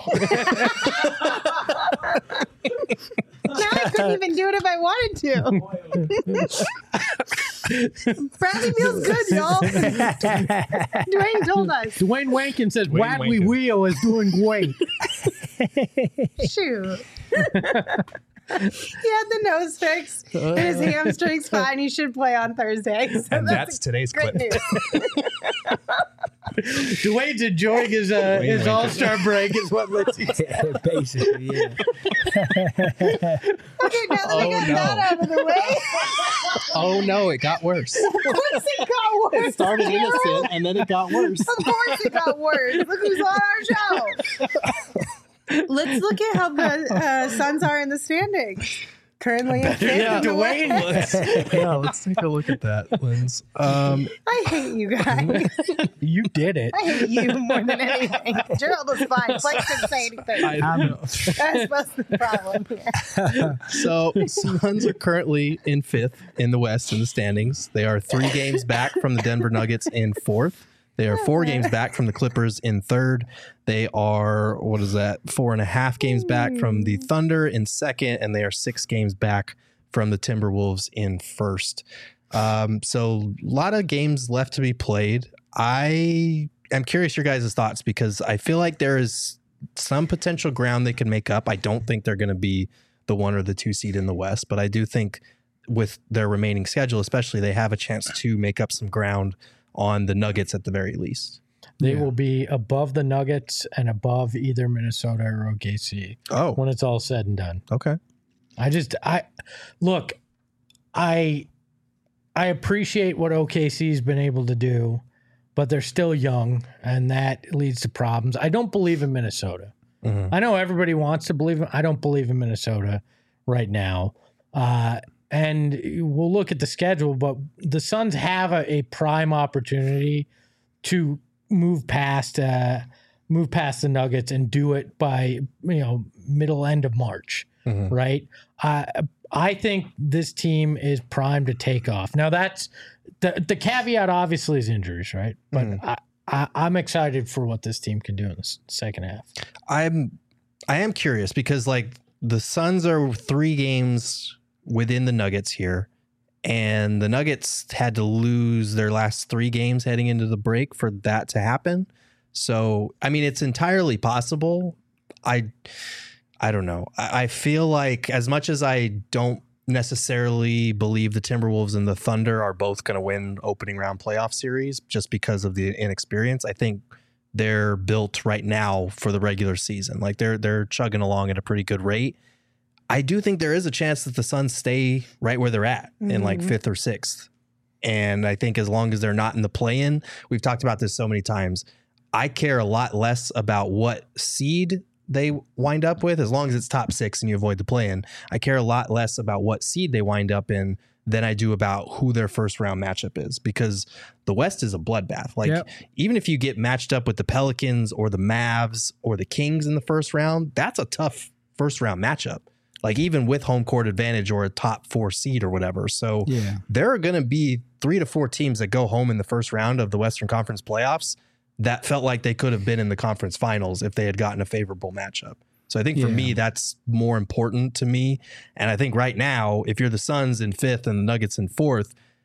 Now I couldn't even do it if I wanted to. Bradley feels good, y'all. Dwayne told us. Dwayne Wankin says Dwayne Bradley Wankin. Wheel is doing great. Shoot. He had the nose fixed. and His hamstring's fine. He should play on Thursday. So And that's today's great clip. news. Dwayne's enjoying his uh, his Wankin. All Star break, is what Lindsay said. Basically, yeah. Okay, now that we Oh, got no. that out of the way, Oh no, it got worse. of course it got worse. It started Carol. innocent and then it got worse. Of course it got worse. Look who's on our show. Let's look at how the uh, Suns are in the standings. Currently in fifth Yeah, in the Dwayne West. Let's, yeah, let's take a look at that, Linz. Um, I hate you guys. You did it. I hate you more than anything. Gerald was fine. Blake didn't say anything. I don't know. That's what's the problem here. So Suns are currently in fifth in the West in the standings. They are three games back from the Denver Nuggets in fourth. They are four games back from the Clippers in third. They are, what is that, four and a half games back from the Thunder in second, and they are six games back from the Timberwolves in first. Um, so a lot of games left to be played. I am curious your guys' thoughts because I feel like there is some potential ground they can make up. I don't think they're going to be the one or the two seed in the West, but I do think with their remaining schedule, especially, they have a chance to make up some ground on the Nuggets at the very least. They Yeah. will be above the Nuggets and above either Minnesota or O K C Oh, when it's all said and done. okay. I just I look, I I appreciate what O K C's been able to do, but they're still young, and that leads to problems. I don't believe in Minnesota. Mhm. I know everybody wants to believe in. I don't believe in Minnesota right now. Uh, and we'll look at the schedule, but the Suns have a, a prime opportunity to move past uh, move past the Nuggets and do it by you know middle end of March, Mhm. right? Uh, I think this team is primed to take off. Now that's the the caveat. Obviously, is injuries, right? But Mhm. I, I, I'm excited for what this team can do in the s- second half. I'm I am curious because like the Suns are three games within the Nuggets here, and the Nuggets had to lose their last three games heading into the break for that to happen. So I mean, it's entirely possible. I I don't know. I, I feel like as much as I don't necessarily believe the Timberwolves and the Thunder are both going to win opening round playoff series just because of the inexperience, I think they're built right now for the regular season. Like they're they're chugging along at a pretty good rate. I do think there is a chance that the Suns stay right where they're at in like Mhm. fifth or sixth. And I think as long as they're not in the play-in, we've talked about this so many times. I care a lot less about what seed they wind up with, as long as it's top six and you avoid the play-in. I care a lot less about what seed they wind up in than I do about who their first round matchup is, because the West is a bloodbath. Like Yep. even if you get matched up with the Pelicans or the Mavs or the Kings in the first round, that's a tough first round matchup. Like even with home court advantage or a top four seed or whatever. So Yeah. there are going to be three to four teams that go home in the first round of the Western Conference playoffs that felt like they could have been in the conference finals if they had gotten a favorable matchup. So I think for Yeah. me, that's more important to me. And I think right now, if you're the Suns in fifth and the Nuggets in fourth,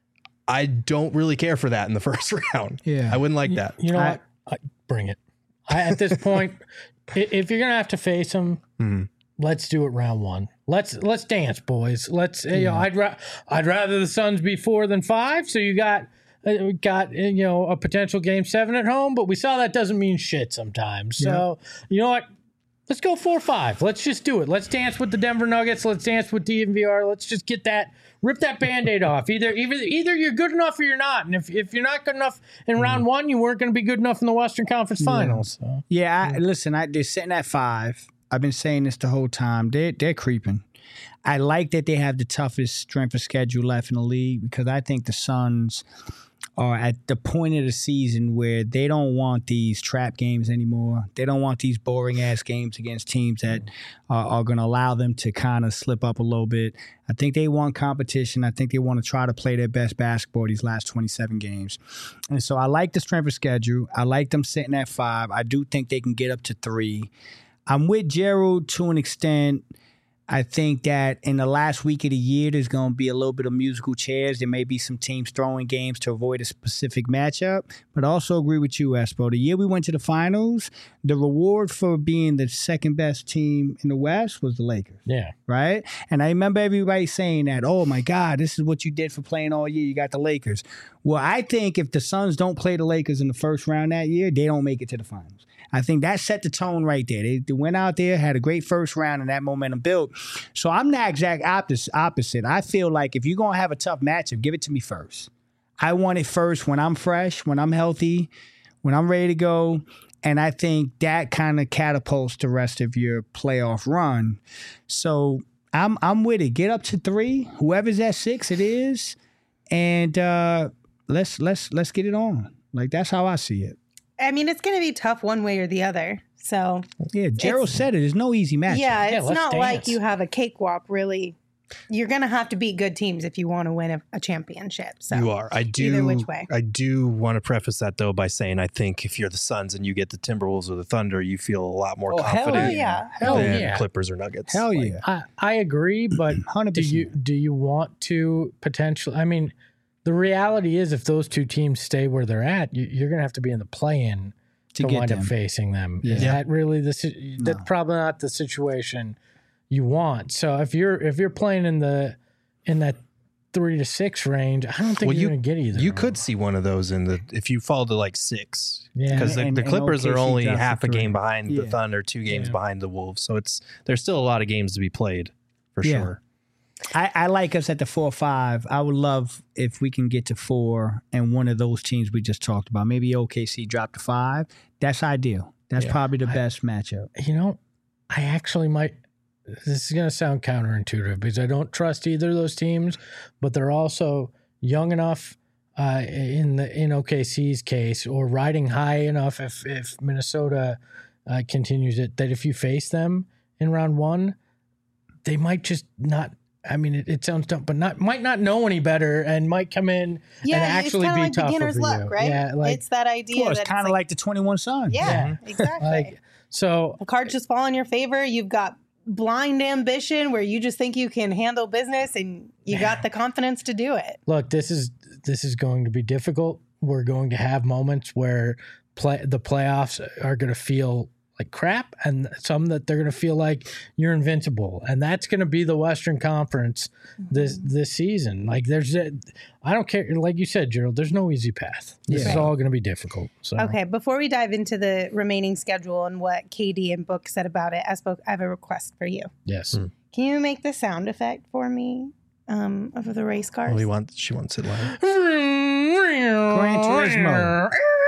I don't really care for that in the first round. Yeah. I wouldn't like that. You know I- what? I, bring it. I, at this point, i- if you're gonna have to face them, Mhm. let's do it round one. Let's let's dance, boys. Let's. You know, I'd ra- I'd rather the Suns be four than five. So you got uh, we got uh, you know a potential game seven at home, but we saw that doesn't mean shit sometimes. So you know what? Let's go four five. Let's just do it. Let's dance with the Denver Nuggets. Let's dance with D N V R. Let's just get that, rip that Band-Aid off. Either either either you're good enough or you're not. And if, if you're not good enough in round one, you weren't going to be good enough in the Western Conference Finals. So. Yeah, I, listen, I, they're sitting at five. I've been saying this the whole time. They're, they're creeping. I like that they have the toughest strength of schedule left in the league because I think the Suns are at the point of the season where they don't want these trap games anymore. They don't want these boring-ass games against teams that are, are going to allow them to kind of slip up a little bit. I think they want competition. I think they want to try to play their best basketball these last twenty-seven games. And so I like the strength of schedule. I like them sitting at five. I do think they can get up to three. I'm with Gerald to an extent. I think that in the last week of the year, there's going to be a little bit of musical chairs. There may be some teams throwing games to avoid a specific matchup. But I also agree with you, Espo. The year we went to the finals, the reward for being the second best team in the West was the Lakers. Yeah. Right? And I remember everybody saying that, oh, my God, this is what you did for playing all year. You got the Lakers. Well, I think if the Suns don't play the Lakers in the first round that year, they don't make it to the finals. I think that set the tone right there. They, they went out there, had a great first round, and that momentum built. So I'm the exact opposite. I feel like if you're going to have a tough matchup, give it to me first. I want it first when I'm fresh, when I'm healthy, when I'm ready to go. And I think that kind of catapults the rest of your playoff run. So I'm I'm with it. Get up to three. Whoever's at six, it is. And uh, let's let's let's get it on. Like, that's how I see it. I mean, it's going to be tough one way or the other. So yeah, Gerald said it. There's no easy match. Yeah, Yeah, it's let's not dance. like you have a cakewalk, really. You're going to have to beat good teams if you want to win a, a championship. So You are. I do. Either which way. I do want to preface that though by saying I think if you're the Suns and you get the Timberwolves or the Thunder, you feel a lot more Oh, hell confident Oh, yeah. Hell than yeah. Clippers or Nuggets. Hell Like, yeah. I, I agree, but one hundred do percent. you do you want to potentially? I mean, the reality is, if those two teams stay where they're at, you, you're going to have to be in the play-in To to, get wind them. up facing them. Is Yeah. that really the? si- That's No. probably not the situation you want. So if you're if you're playing in the in that three to six range, I don't think Well, you're you- going to get either. You of could them. see one of those in the if you fall to like six. Yeah. Because the, And- the and Clippers O K are C only dropped to half a three. game behind the Yeah. Thunder, two games Yeah. behind the Wolves. So it's there's still a lot of games to be played for Yeah. sure. I, I like us at the four or five. I would love if we can get to four and one of those teams we just talked about. Maybe O K C drop to five. That's ideal. That's Yeah. probably the I- best matchup. You know, I actually might. This is going to sound counterintuitive because I don't trust either of those teams, but they're also young enough uh, in the in O K C's case, or riding high enough if if Minnesota uh, continues it, that if you face them in round one, they might just not. I mean, it, it sounds dumb, but not might not know any better and might come in Yeah, and actually it's be kind of like tougher beginner's for luck, you. right? Yeah, like it's that idea. Well, it's that kind of like, the twenty-one Suns. yeah, exactly. like so. the cards just fall in your favor. You've got blind ambition where you just think you can handle business and you got the confidence to do it. Look, this is this is going to be difficult. We're going to have moments where play the playoffs are going to feel like crap, and some that they're going to feel like you're invincible, and that's going to be the Western Conference this this season. Like there's, a, I don't care. Like you said, Gerald, there's no easy path. This Yeah. is all going to be difficult. So Okay, before we dive into the remaining schedule and what K D and Book said about it, I spoke. I have a request for you. yes, Hmm. Can you make the sound effect for me um, of the race cars? Well, he wants she wants it live. Gran Turismo.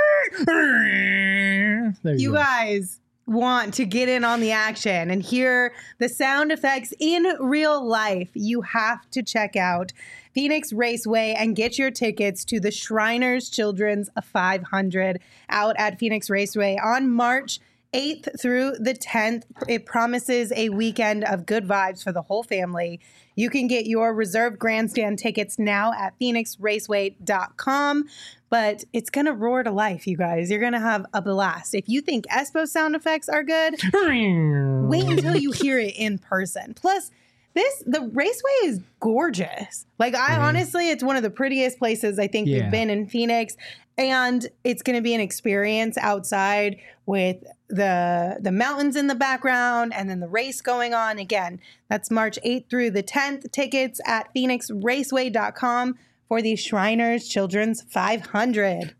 There you, You go. guys want to get in on the action and hear the sound effects in real life, you have to check out Phoenix Raceway and get your tickets to the Shriners Children's five hundred out at Phoenix Raceway on March eighth through the tenth. It promises a weekend of good vibes for the whole family. You can get your reserved grandstand tickets now at phoenix raceway dot com. But it's going to roar to life, you guys. You're going to have a blast. If you think Espo sound effects are good, wait until you hear it in person. Plus, This the Raceway is gorgeous. Like I Mhm. honestly, it's one of the prettiest places I think Yeah. we've been in Phoenix, and it's going to be an experience outside with the the mountains in the background and then the race going on. Again, that's March eighth through the tenth. Tickets at phoenix raceway dot com for the Shriners Children's five hundred.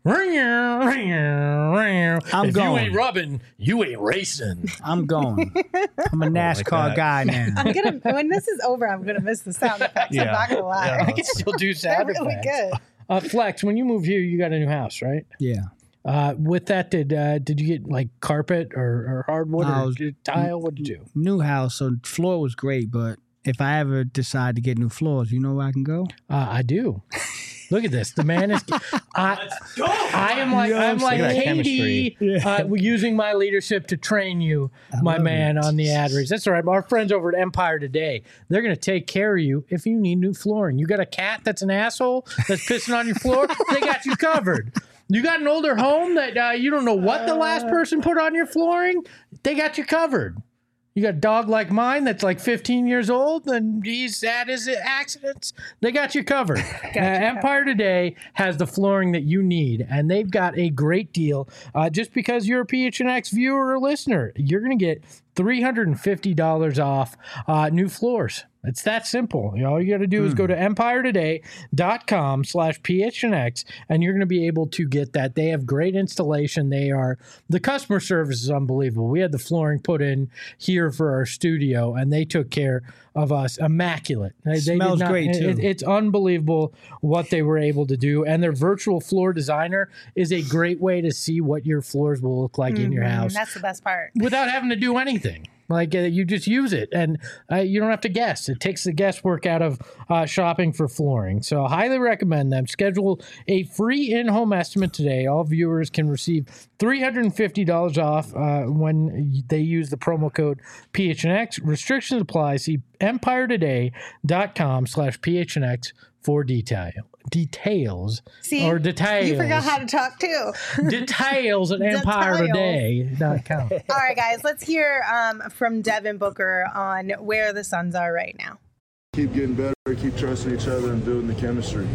I'm if going. you ain't rubbing, you ain't racing. I'm going. I'm a NASCAR that. guy now. I'm gonna when this is over, I'm gonna miss the sound effects. I'm Yeah. not gonna lie. Yeah. I can still do They're sound really effects. good. Uh, Flex, when you moved here, you got a new house, right? Yeah. Uh, with that, did uh, did you get like carpet or, or hardwood No, I or was- tile? What did you do? New house, so floor was great, but if I ever decide to get new floors, you know where I can go? Uh, I do. Look at this. The man is. I, I am like You know I'm what I'm like saying? Katie, Yeah. uh, using my leadership to train you, I my love man, it. on the ad reads. That's all right. Our friends over at Empire Today, they're going to take care of you if you need new flooring. You got a cat that's an asshole that's pissing on your floor. They got you covered. You got an older home that uh, you don't know what the last person put on your flooring. They got you covered. You got a dog like mine that's like fifteen years old and he's had his accidents. They got you covered. Uh, Empire Today has the flooring that you need, and they've got a great deal. Uh, just because you're a P H N X viewer or listener, you're going to get three hundred fifty dollars off uh, new floors. It's that simple. You know, all you got to do is go to empire today dot com slash P H N X and you're going to be able to get that. They have great installation. They are, the customer service is unbelievable. We had the flooring put in here for our studio and they took care of us. Immaculate. They, they did Smells not- great, it- too. it- it's unbelievable what they were able to do. And their virtual floor designer is a great way to see what your floors will look like in your Mhm, house That's the best part. without having to do anything. Like uh, you just use it, and uh, you don't have to guess. It takes the guesswork out of uh, shopping for flooring. So, I highly recommend them. Schedule a free in-home estimate today. All viewers can receive three hundred fifty dollars off uh, when they use the promo code P H N X. Restrictions apply. See empire today dot com slash P H N X for detail. Details See, or details. you forgot how to talk too. details at empire today dot com. All right, guys, let's hear um, from Devin Booker on where the Suns are right now. Keep getting better, keep trusting each other and building the chemistry.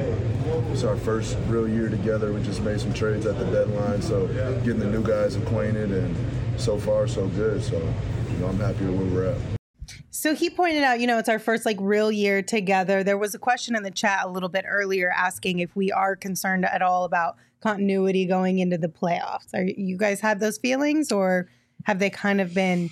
Uh, it's our first real year together. We just made some trades at the deadline, so getting the new guys acquainted, and so far so good. So, you know, I'm happy with where we're at. So he pointed out, you know, it's our first like real year together. There was a question in the chat a little bit earlier asking if we are concerned at all about continuity going into the playoffs. Are you guys have those feelings, or have they kind of been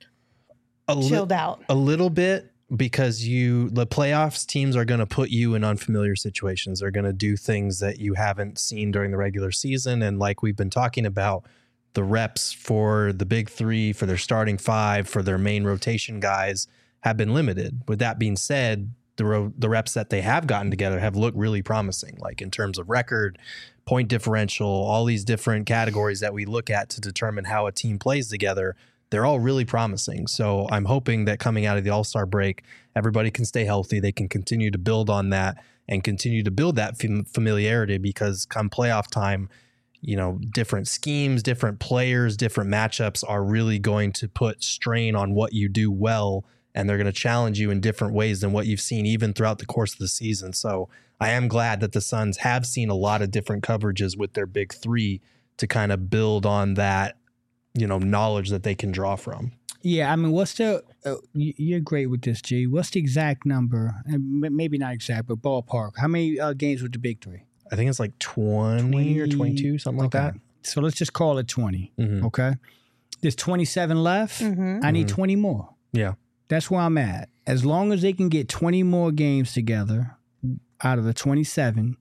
A li- chilled out? A little bit, because you the playoffs teams are going to put you in unfamiliar situations. They're going to do things that you haven't seen during the regular season, and like we've been talking about, the reps for the big three, for their starting five, for their main rotation guys have been limited. With that being said, the ro- the reps that they have gotten together have looked really promising, like in terms of record, point differential, all these different categories that we look at to determine how a team plays together. They're all really promising. So I'm hoping that coming out of the All-Star break, everybody can stay healthy. They can continue to build on that and continue to build that fam- familiarity, because come playoff time, you know, different schemes, different players, different matchups are really going to put strain on what you do well, and they're going to challenge you in different ways than what you've seen even throughout the course of the season. So I am glad that the Suns have seen a lot of different coverages with their big three to kind of build on that, you know, knowledge that they can draw from. Yeah, I mean, what's the? Uh, you- you're great with this, G. What's the exact number? And m- maybe not exact, but ballpark. How many uh, games with the big three? I think it's like twenty or twenty-two, something like Okay. So let's just call it twenty. that. Mhm. Okay. There's twenty-seven left. Mhm. I need Mhm. twenty more. Yeah. That's where I'm at. As long as they can get twenty more games together out of the twenty-seven,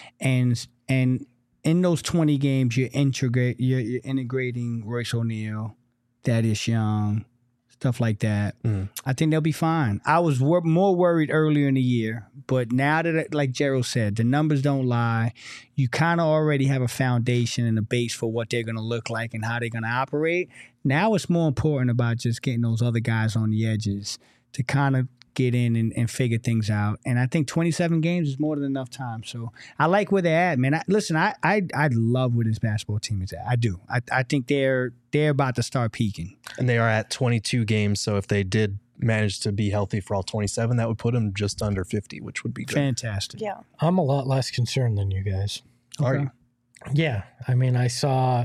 and and in those twenty games, you're integrate you're, you're integrating Royce O'Neal, Thaddeus Young, stuff like that. Mhm. I think they'll be fine. I was wor- more worried earlier in the year, but now that, like Gerald said, the numbers don't lie. You kind of already have a foundation and a base for what they're going to look like and how they're going to operate. Now it's more important about just getting those other guys on the edges to kind of get in and, and figure things out. And I think twenty-seven games is more than enough time. So I like where they're at, man. I, listen, I, I I love where this basketball team is at. I do. I, I think they're they're about to start peaking. And they are at twenty-two games. So if they did manage to be healthy for all twenty-seven, that would put him just under fifty, which would be good. Fantastic. Yeah. I'm a lot less concerned than you guys. Are you? Yeah. I mean, I saw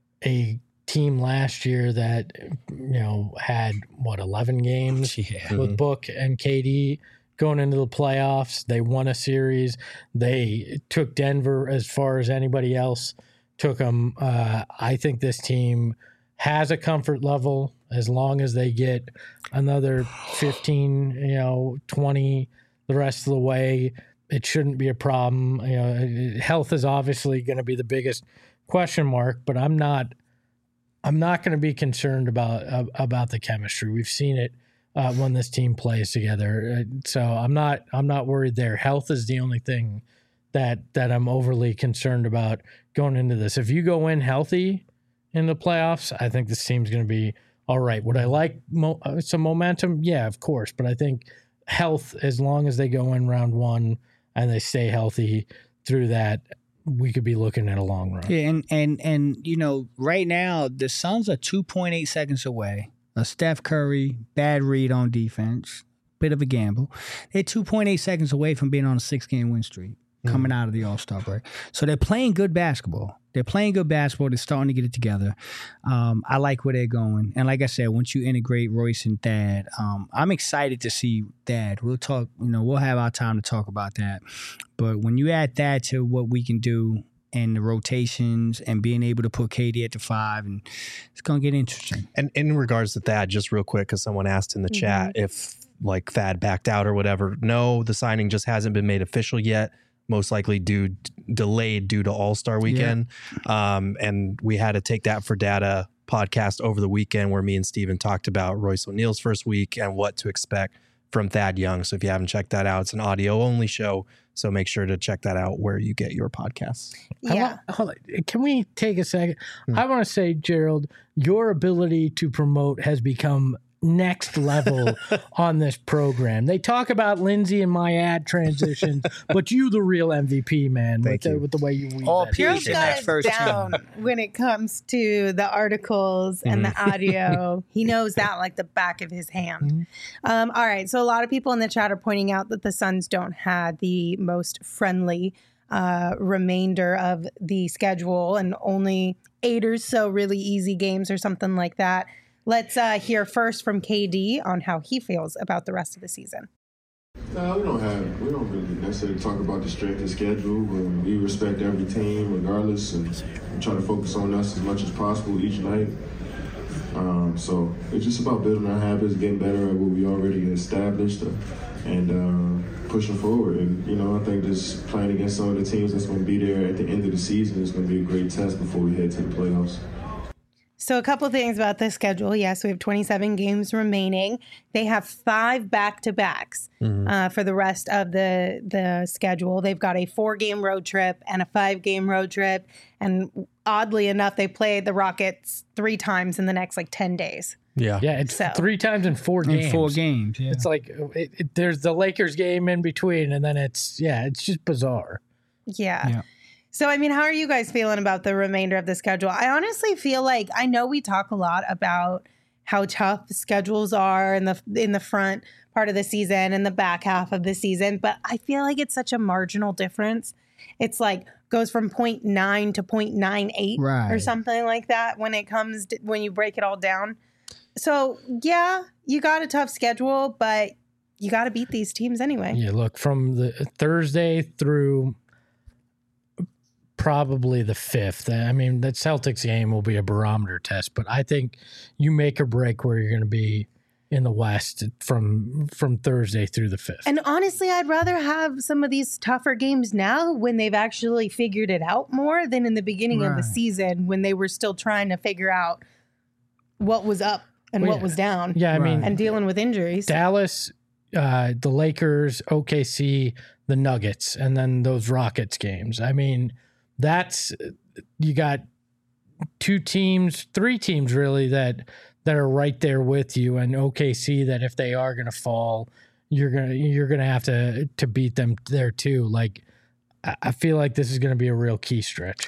a team last year that, you know, had what, eleven games Yeah. with Book and K D going into the playoffs. They won a series. They took Denver as far as anybody else took them. Uh, I think this team has a comfort level as long as they get another fifteen, you know, twenty the rest of the way. It shouldn't be a problem. You know, health is obviously going to be the biggest question mark, but I'm not I'm not going to be concerned about uh, about the chemistry. We've seen it uh, when this team plays together, uh, so I'm not I'm not worried there. Health is the only thing that that I'm overly concerned about going into this. If you go in healthy in the playoffs, I think this team's going to be all right. Would I like mo- some momentum? Yeah, of course, but I think health, as long as they go in round one and they stay healthy through that, we could be looking at a long run. Yeah, and and and you know, right now the Suns are two point eight seconds away. A Steph Curry bad read on defense, bit of a gamble. They're two point eight seconds away from being on a six game win streak coming out of the All-Star break. So they're playing good basketball. They're playing good basketball. They're starting to get it together. Um, I like where they're going. And like I said, once you integrate Royce and Thad, um, I'm excited to see Thad. We'll talk, you know, we'll have our time to talk about that. But when you add Thad to what we can do and the rotations and being able to put K D at the five, and it's going to get interesting. And in regards to Thad, just real quick, because someone asked in the mm-hmm. chat if like Thad backed out or whatever. No, the signing just hasn't been made official yet. Most likely due delayed due to All-Star weekend. Yeah. Um, and we had to take that for data podcast over the weekend where me and Steven talked about Royce O'Neal's first week and what to expect from Thad Young. So if you haven't checked that out, it's an audio only show. So make sure to check that out where you get your podcasts. Yeah. I want, can we take a second? Hmm. I want to say, Gerald, your ability to promote has become next level on this program. They talk about Lindsay and my ad transitions, but you the real M V P, man. Thank with, you. The, with the way you weave All that. Pierce in that first down when it comes to the articles and Mm-hmm. the audio. He knows that like the back of his hand. Mm-hmm. Um, all right. So a lot of people in the chat are pointing out that the Suns don't have the most friendly uh, remainder of the schedule and only eight or so really easy games or something like that. Let's uh, hear first from K D on how he feels about the rest of the season. No, we don't have, we don't really necessarily talk about the strength of schedule. But we respect every team regardless, and we try to focus on us as much as possible each night. Um, so it's just about building our habits, getting better at what we already established, uh, and uh, pushing forward. And, you know, I think just playing against some of the teams that's going to be there at the end of the season is going to be a great test before we head to the playoffs. So a couple of things about the schedule. Yes, we have twenty-seven games remaining. They have five back-to-backs mm-hmm. uh, for the rest of the the schedule. They've got a four-game road trip and a five-game road trip. And oddly enough, they play the Rockets three times in the next like ten days. Yeah. Yeah, it's So- three times in four games. In four games, yeah. It's like it, it, there's the Lakers game in between, and then it's, yeah, it's just bizarre. Yeah. Yeah. So, I mean, how are you guys feeling about the remainder of the schedule? I honestly feel like I know we talk a lot about how tough schedules are in the in the front part of the season and the back half of the season, but I feel like it's such a marginal difference. It's like goes from zero point nine to zero point nine eight Right. or something like that when it comes to, when you break it all down. So, yeah, you got a tough schedule, but you got to beat these teams anyway. Yeah, look, from the Thursday through probably the fifth. I mean, that Celtics game will be a barometer test, but I think you make or break where you're going to be in the West from from Thursday through the fifth. And honestly, I'd rather have some of these tougher games now when they've actually figured it out more than in the beginning of the Right. season when they were still trying to figure out what was up and Well, what yeah. was down Yeah, I mean, Right. and dealing with injuries. Dallas, uh, the Lakers, O K C, the Nuggets, and then those Rockets games. I mean, that's you got two teams, three teams really that that are right there with you, and O K C that if they are going to fall, you're gonna you're gonna have to to beat them there too. Like I I feel like this is going to be a real key stretch here.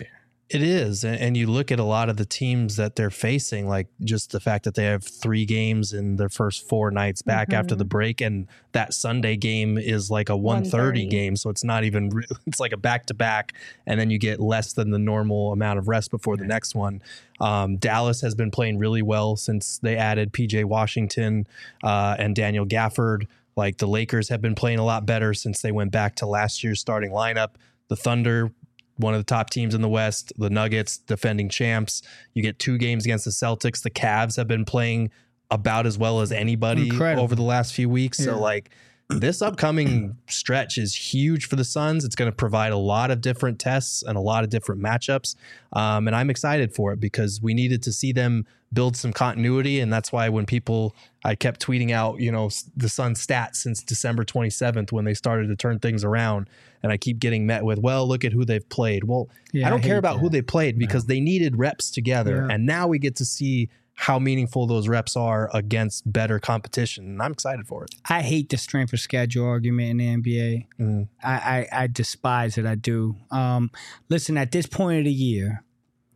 It is. And, and you look at a lot of the teams that they're facing, like just the fact that they have three games in their first four nights back mm-hmm. after the break. And that Sunday game is like a one thirty game. So it's not even, re- it's like a back to back. And then you get less than the normal amount of rest before the next one. Um, Dallas has been playing really well since they added P J Washington uh, and Daniel Gafford. Like the Lakers have been playing a lot better since they went back to last year's starting lineup. The Thunder, one of the top teams in the West, the Nuggets, defending champs. You get two games against the Celtics. The Cavs have been playing about as well as anybody Incredible. over the last few weeks. Yeah. So like this upcoming stretch is huge for the Suns. It's going to provide a lot of different tests and a lot of different matchups. Um, and I'm excited for it because we needed to see them build some continuity. And that's why when people, I kept tweeting out, you know, the Suns stats since December twenty-seventh when they started to turn things around. And I keep getting met with, well, look at who they've played. Well, yeah, I don't I care about that. who they played because no. they needed reps together. Yeah. And now we get to see how meaningful those reps are against better competition. And I'm excited for it. I hate the strength of schedule argument in the N B A. Mm. I, I, I despise it. I do. Um, listen, at this point of the year,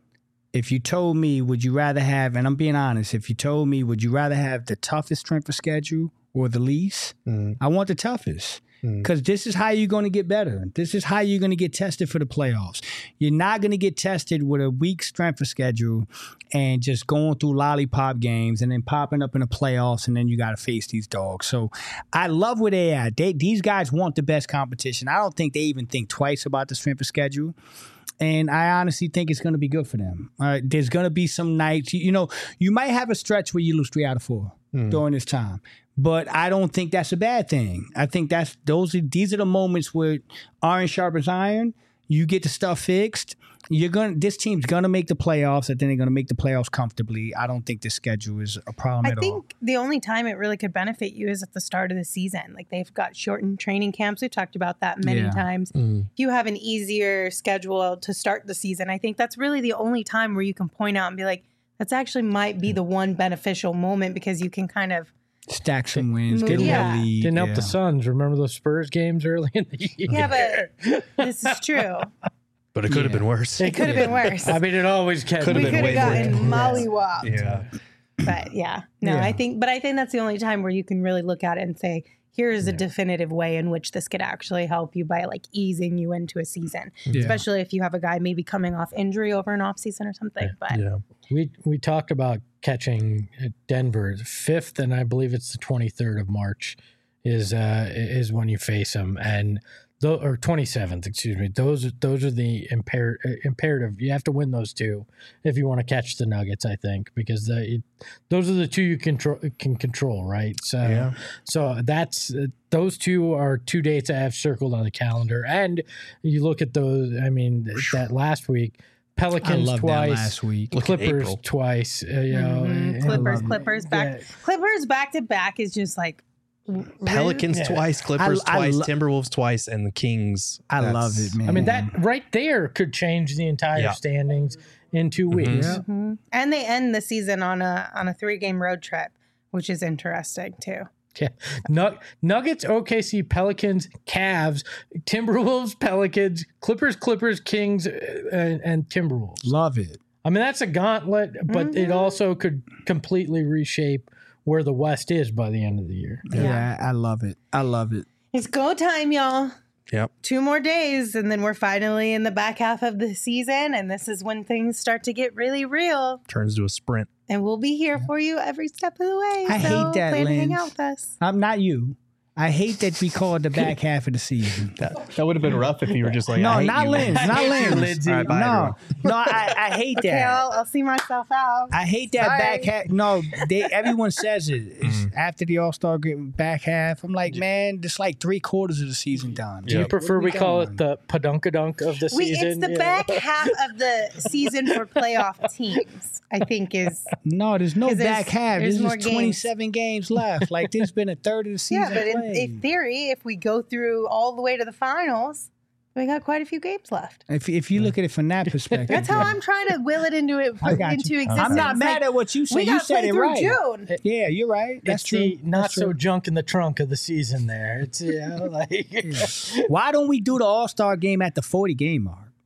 if you told me, would you rather have, and I'm being honest, if you told me, would you rather have the toughest strength of schedule or the least? Mm. I want the toughest. Because this is how you're going to get better. This is how you're going to get tested for the playoffs. You're not going to get tested with a weak strength of schedule and just going through lollipop games and then popping up in the playoffs, and then you got to face these dogs. So I love where they at. They, these guys want the best competition. I don't think they even think twice about the strength of schedule. And I honestly think it's going to be good for them. All right, there's going to be some nights, you, you know, you might have a stretch where you lose three out of four mm. during this time. But I don't think that's a bad thing. I think that's those are these are the moments where iron sharpens iron. You get the stuff fixed. You're gonna this team's gonna make the playoffs, and then they're gonna make the playoffs comfortably. I don't think the schedule is a problem I at all. I think the only time it really could benefit you is at the start of the season. Like they've got shortened training camps. We've talked about that many yeah. times. Mm. If you have an easier schedule to start the season, I think that's really the only time where you can point out and be like, that's actually might be the one beneficial moment because you can kind of stack some wins, get yeah. a lead. Didn't help yeah. the Suns. Remember those Spurs games early in the year? Yeah, but this is true. But it could yeah. have been worse. It could have been worse. I mean, it always can. Could have been way more. We could have gotten mollywopped. Yeah. But yeah, no, yeah. I think, but I think that's the only time where you can really look at it and say, here is a yeah. definitive way in which this could actually help you by like easing you into a season, yeah. especially if you have a guy maybe coming off injury over an off season or something. But yeah, we we talked about catching Denver fifth, and I believe it's the twenty-third of March is uh, is when you face them, and the, or twenty-seventh, excuse me. Those those are the imper- imperative. You have to win those two if you want to catch the Nuggets, I think, because the, it, those are the two you control can control, right? So yeah. so that's uh, those two are two dates I have circled on the calendar, and you look at those. I mean, that last week. Pelicans twice, last week. Clippers twice. Uh, you know, mm-hmm. Clippers, Clippers back, yeah. Clippers back to back is just like Pelicans yeah. twice, Clippers I, I twice, lo- Timberwolves twice, and the Kings. I love it, man. I mean, that right there could change the entire yeah. standings in two weeks. Mm-hmm. Yeah. Mm-hmm. And they end the season on a on a three game road trip, which is interesting too. Yeah. Nug- Nuggets, O K C, Pelicans, Cavs, Timberwolves, Pelicans, Clippers, Clippers, Kings, and, and Timberwolves. Love it. I mean, that's a gauntlet, but mm-hmm. it also could completely reshape where the West is by the end of the year. Yeah, yeah I love it. I love it. It's go time, y'all. Yep. Two more days, and then we're finally in the back half of the season, and this is when things start to get really real. Turns to a sprint. And we'll be here for you every step of the way. I so hate that, plan Lynn. to hang out with us. I'm not you. I hate that we call it the back half of the season. That, that would have been rough if you were just like, no, I hate not you. Linz, not Linz. Lindsay. All right, bye, no, no, I, I hate that. Okay, I'll, I'll see myself out. I hate that Sorry. back half. No, they, everyone says it. It's Mm. after the All-Star game, back half. I'm like, man, it's like three quarters of the season done. Do you Yep. prefer we Come call on. it the padunkadunk of the We, season? it's the Yeah. back half of the season for playoff teams, I think is. No, there's no 'Cause there's- back half. there's There's more just games. twenty-seven games left. Like, there's been a third of the season Yeah, but in, played. in theory, if we go through all the way to the finals, we got quite a few games left. If, if you look at it from that perspective. That's how yeah. I'm trying to will it into it I got into you. existence. I'm not mad Like, at what you said. we You got said play it through right. June. Yeah, you're right. That's It's true. the not That's so true. junk in the trunk of the season there. It's, you know, like. Why don't we do the All-Star game at the forty game mark?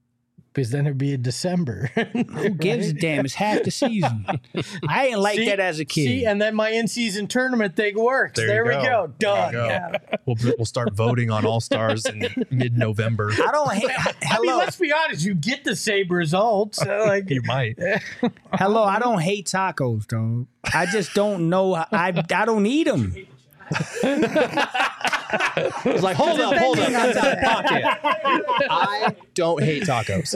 Because then it'd be in December. Who gives a damn? It's half the season. I ain't like See? that as a kid. See, and then my in-season tournament thing works. There There, you we go. go. Done. There you go. Yeah. We'll, we'll start voting on All-Stars in mid-November. I don't hate. I Hello, mean, let's be honest. You get the same results. Uh, like You might. hello. I don't hate tacos, though. I just don't know. I I don't eat them. It's like, hold up, hold up. Pocket. I don't hate tacos.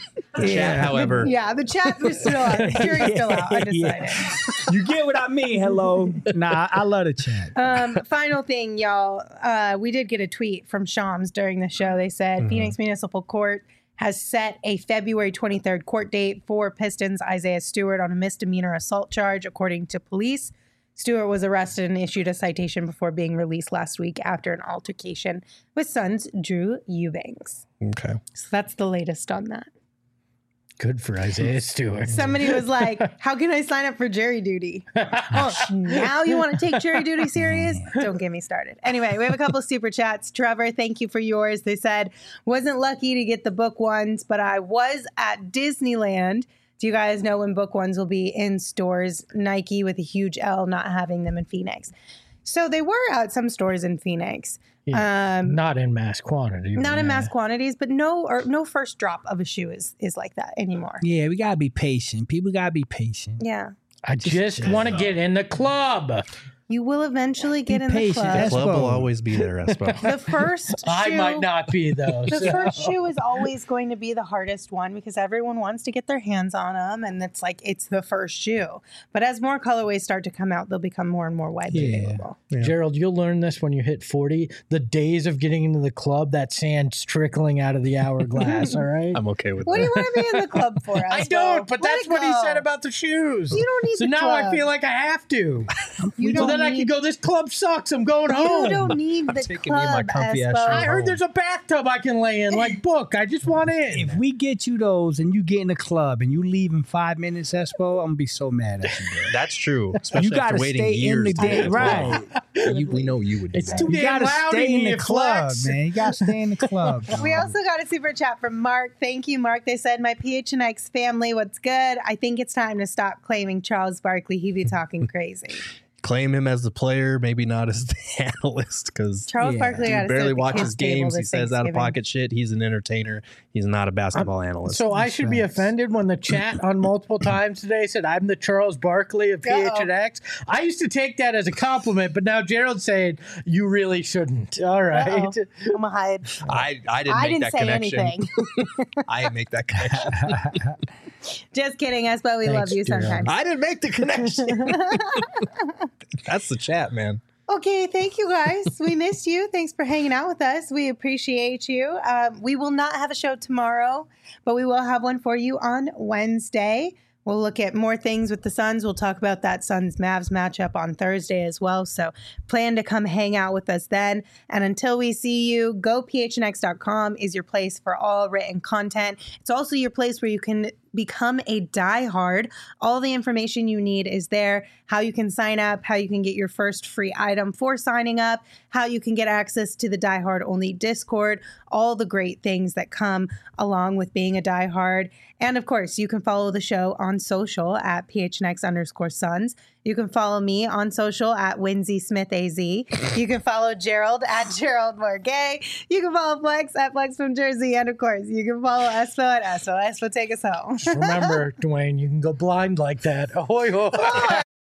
Chat, however, Yeah, the chat was still out. The jury's still out. I decided. Yeah. You get what I mean. Hello. Nah, I love the chat. Um, final thing, y'all. Uh, we did get a tweet from Shams during the show. They said Mm-hmm. Phoenix Municipal Court has set a February twenty-third court date for Pistons Isaiah Stewart on a misdemeanor assault charge, according to police. Stewart was arrested and issued a citation before being released last week after an altercation with Suns' Drew Eubanks. okay. So that's the latest on that. good for Isaiah Stewart. Somebody was like, how can I sign up for jury duty? Oh, now you want to take jury duty serious? Don't get me started. Anyway, we have a couple super chats. Trevor, thank you for yours. They said, wasn't lucky to get the book ones, but I was at Disneyland. Do you guys know when book ones will be in stores? Nike with a huge L not having them in Phoenix. So they were at some stores in Phoenix. Yeah, Um, not in mass quantity. not in yeah. mass quantities, but no or no first drop of a shoe is is like that anymore. Yeah, we gotta be patient. People gotta be patient. Yeah. I just want to get in the club. You will eventually get Be in the patient. club. That's- Club will Espo. always be there, Espo. The first shoe, I might not be though. the so- first shoe is always going to be the hardest one because everyone wants to get their hands on them, and it's like it's the first shoe. But as more colorways start to come out, they'll become more and more widely Yeah. available. Gerald, you'll learn this when you hit forty. The days of getting into the club, that sand's trickling out of the hourglass, all right? I'm okay with What do that. you want to be in the club for? I Espo? don't, but Let that's it what he go. said about the shoes. You don't need So the now I club. feel like I have to. You so don't then I need- can go, this club sucks. I'm going You home. don't need the taking me in my club, comfy ass Espo. shoes. I heard there's a bathtub I can lay in, like book. I just want in. If we get you those and you get in the club and you leave in five minutes, Espo, I'm gonna be so mad at you. Bro. That's true. Especially You gotta after waiting stay in years. the to get day, to right? You, we know you would do It's that. too You damn gotta loud stay in the here, club, Flex. man. You gotta stay in the club. We dog. also got a super chat from Mark. Thank you, Mark. They said, my P H N X family, what's good? I think it's time to stop claiming Charles Barkley. He be talking crazy. Claim him as the player, maybe not as the analyst, because Charles Yeah. Barkley got to barely sit at the watches kids' table games. He this says out of Thanksgiving. pocket shit. He's an entertainer. He's not a basketball analyst. So I should be facts. offended when the chat on multiple times today said I'm the Charles Barkley of P H N X. I used to take that as a compliment, but now Gerald's saying you really shouldn't. All right. Uh-oh. I'm gonna hide. I, I didn't I make didn't that say connection. anything. I didn't make that connection. Just kidding, Espo. We Thanks, love you Gerald. sometimes. I didn't make the connection. That's the chat, man. Okay, thank you guys. We missed you. Thanks for hanging out with us. We appreciate you. Um, we will not have a show tomorrow, but we will have one for you on Wednesday. We'll look at more things with the Suns. We'll talk about that Suns-Mavs matchup on Thursday as well. So plan to come hang out with us then. And until we see you, go P H N X dot com is your place for all written content. It's also your place where you can become a diehard. All the information you need is there. How you can sign up, how you can get your first free item for signing up, how you can get access to the diehard only Discord, all the great things that come along with being a diehard. And of course, you can follow the show on social at P H N X underscore Suns. You can follow me on social at Winsy Smith A Z. You can follow Gerald at Gerald Morgay. You can follow Flex at Flex from Jersey. And of course, you can follow Espo at Espo. Espo, take us home. Remember, Dwayne, you can go blind like that. Ahoy, hoy.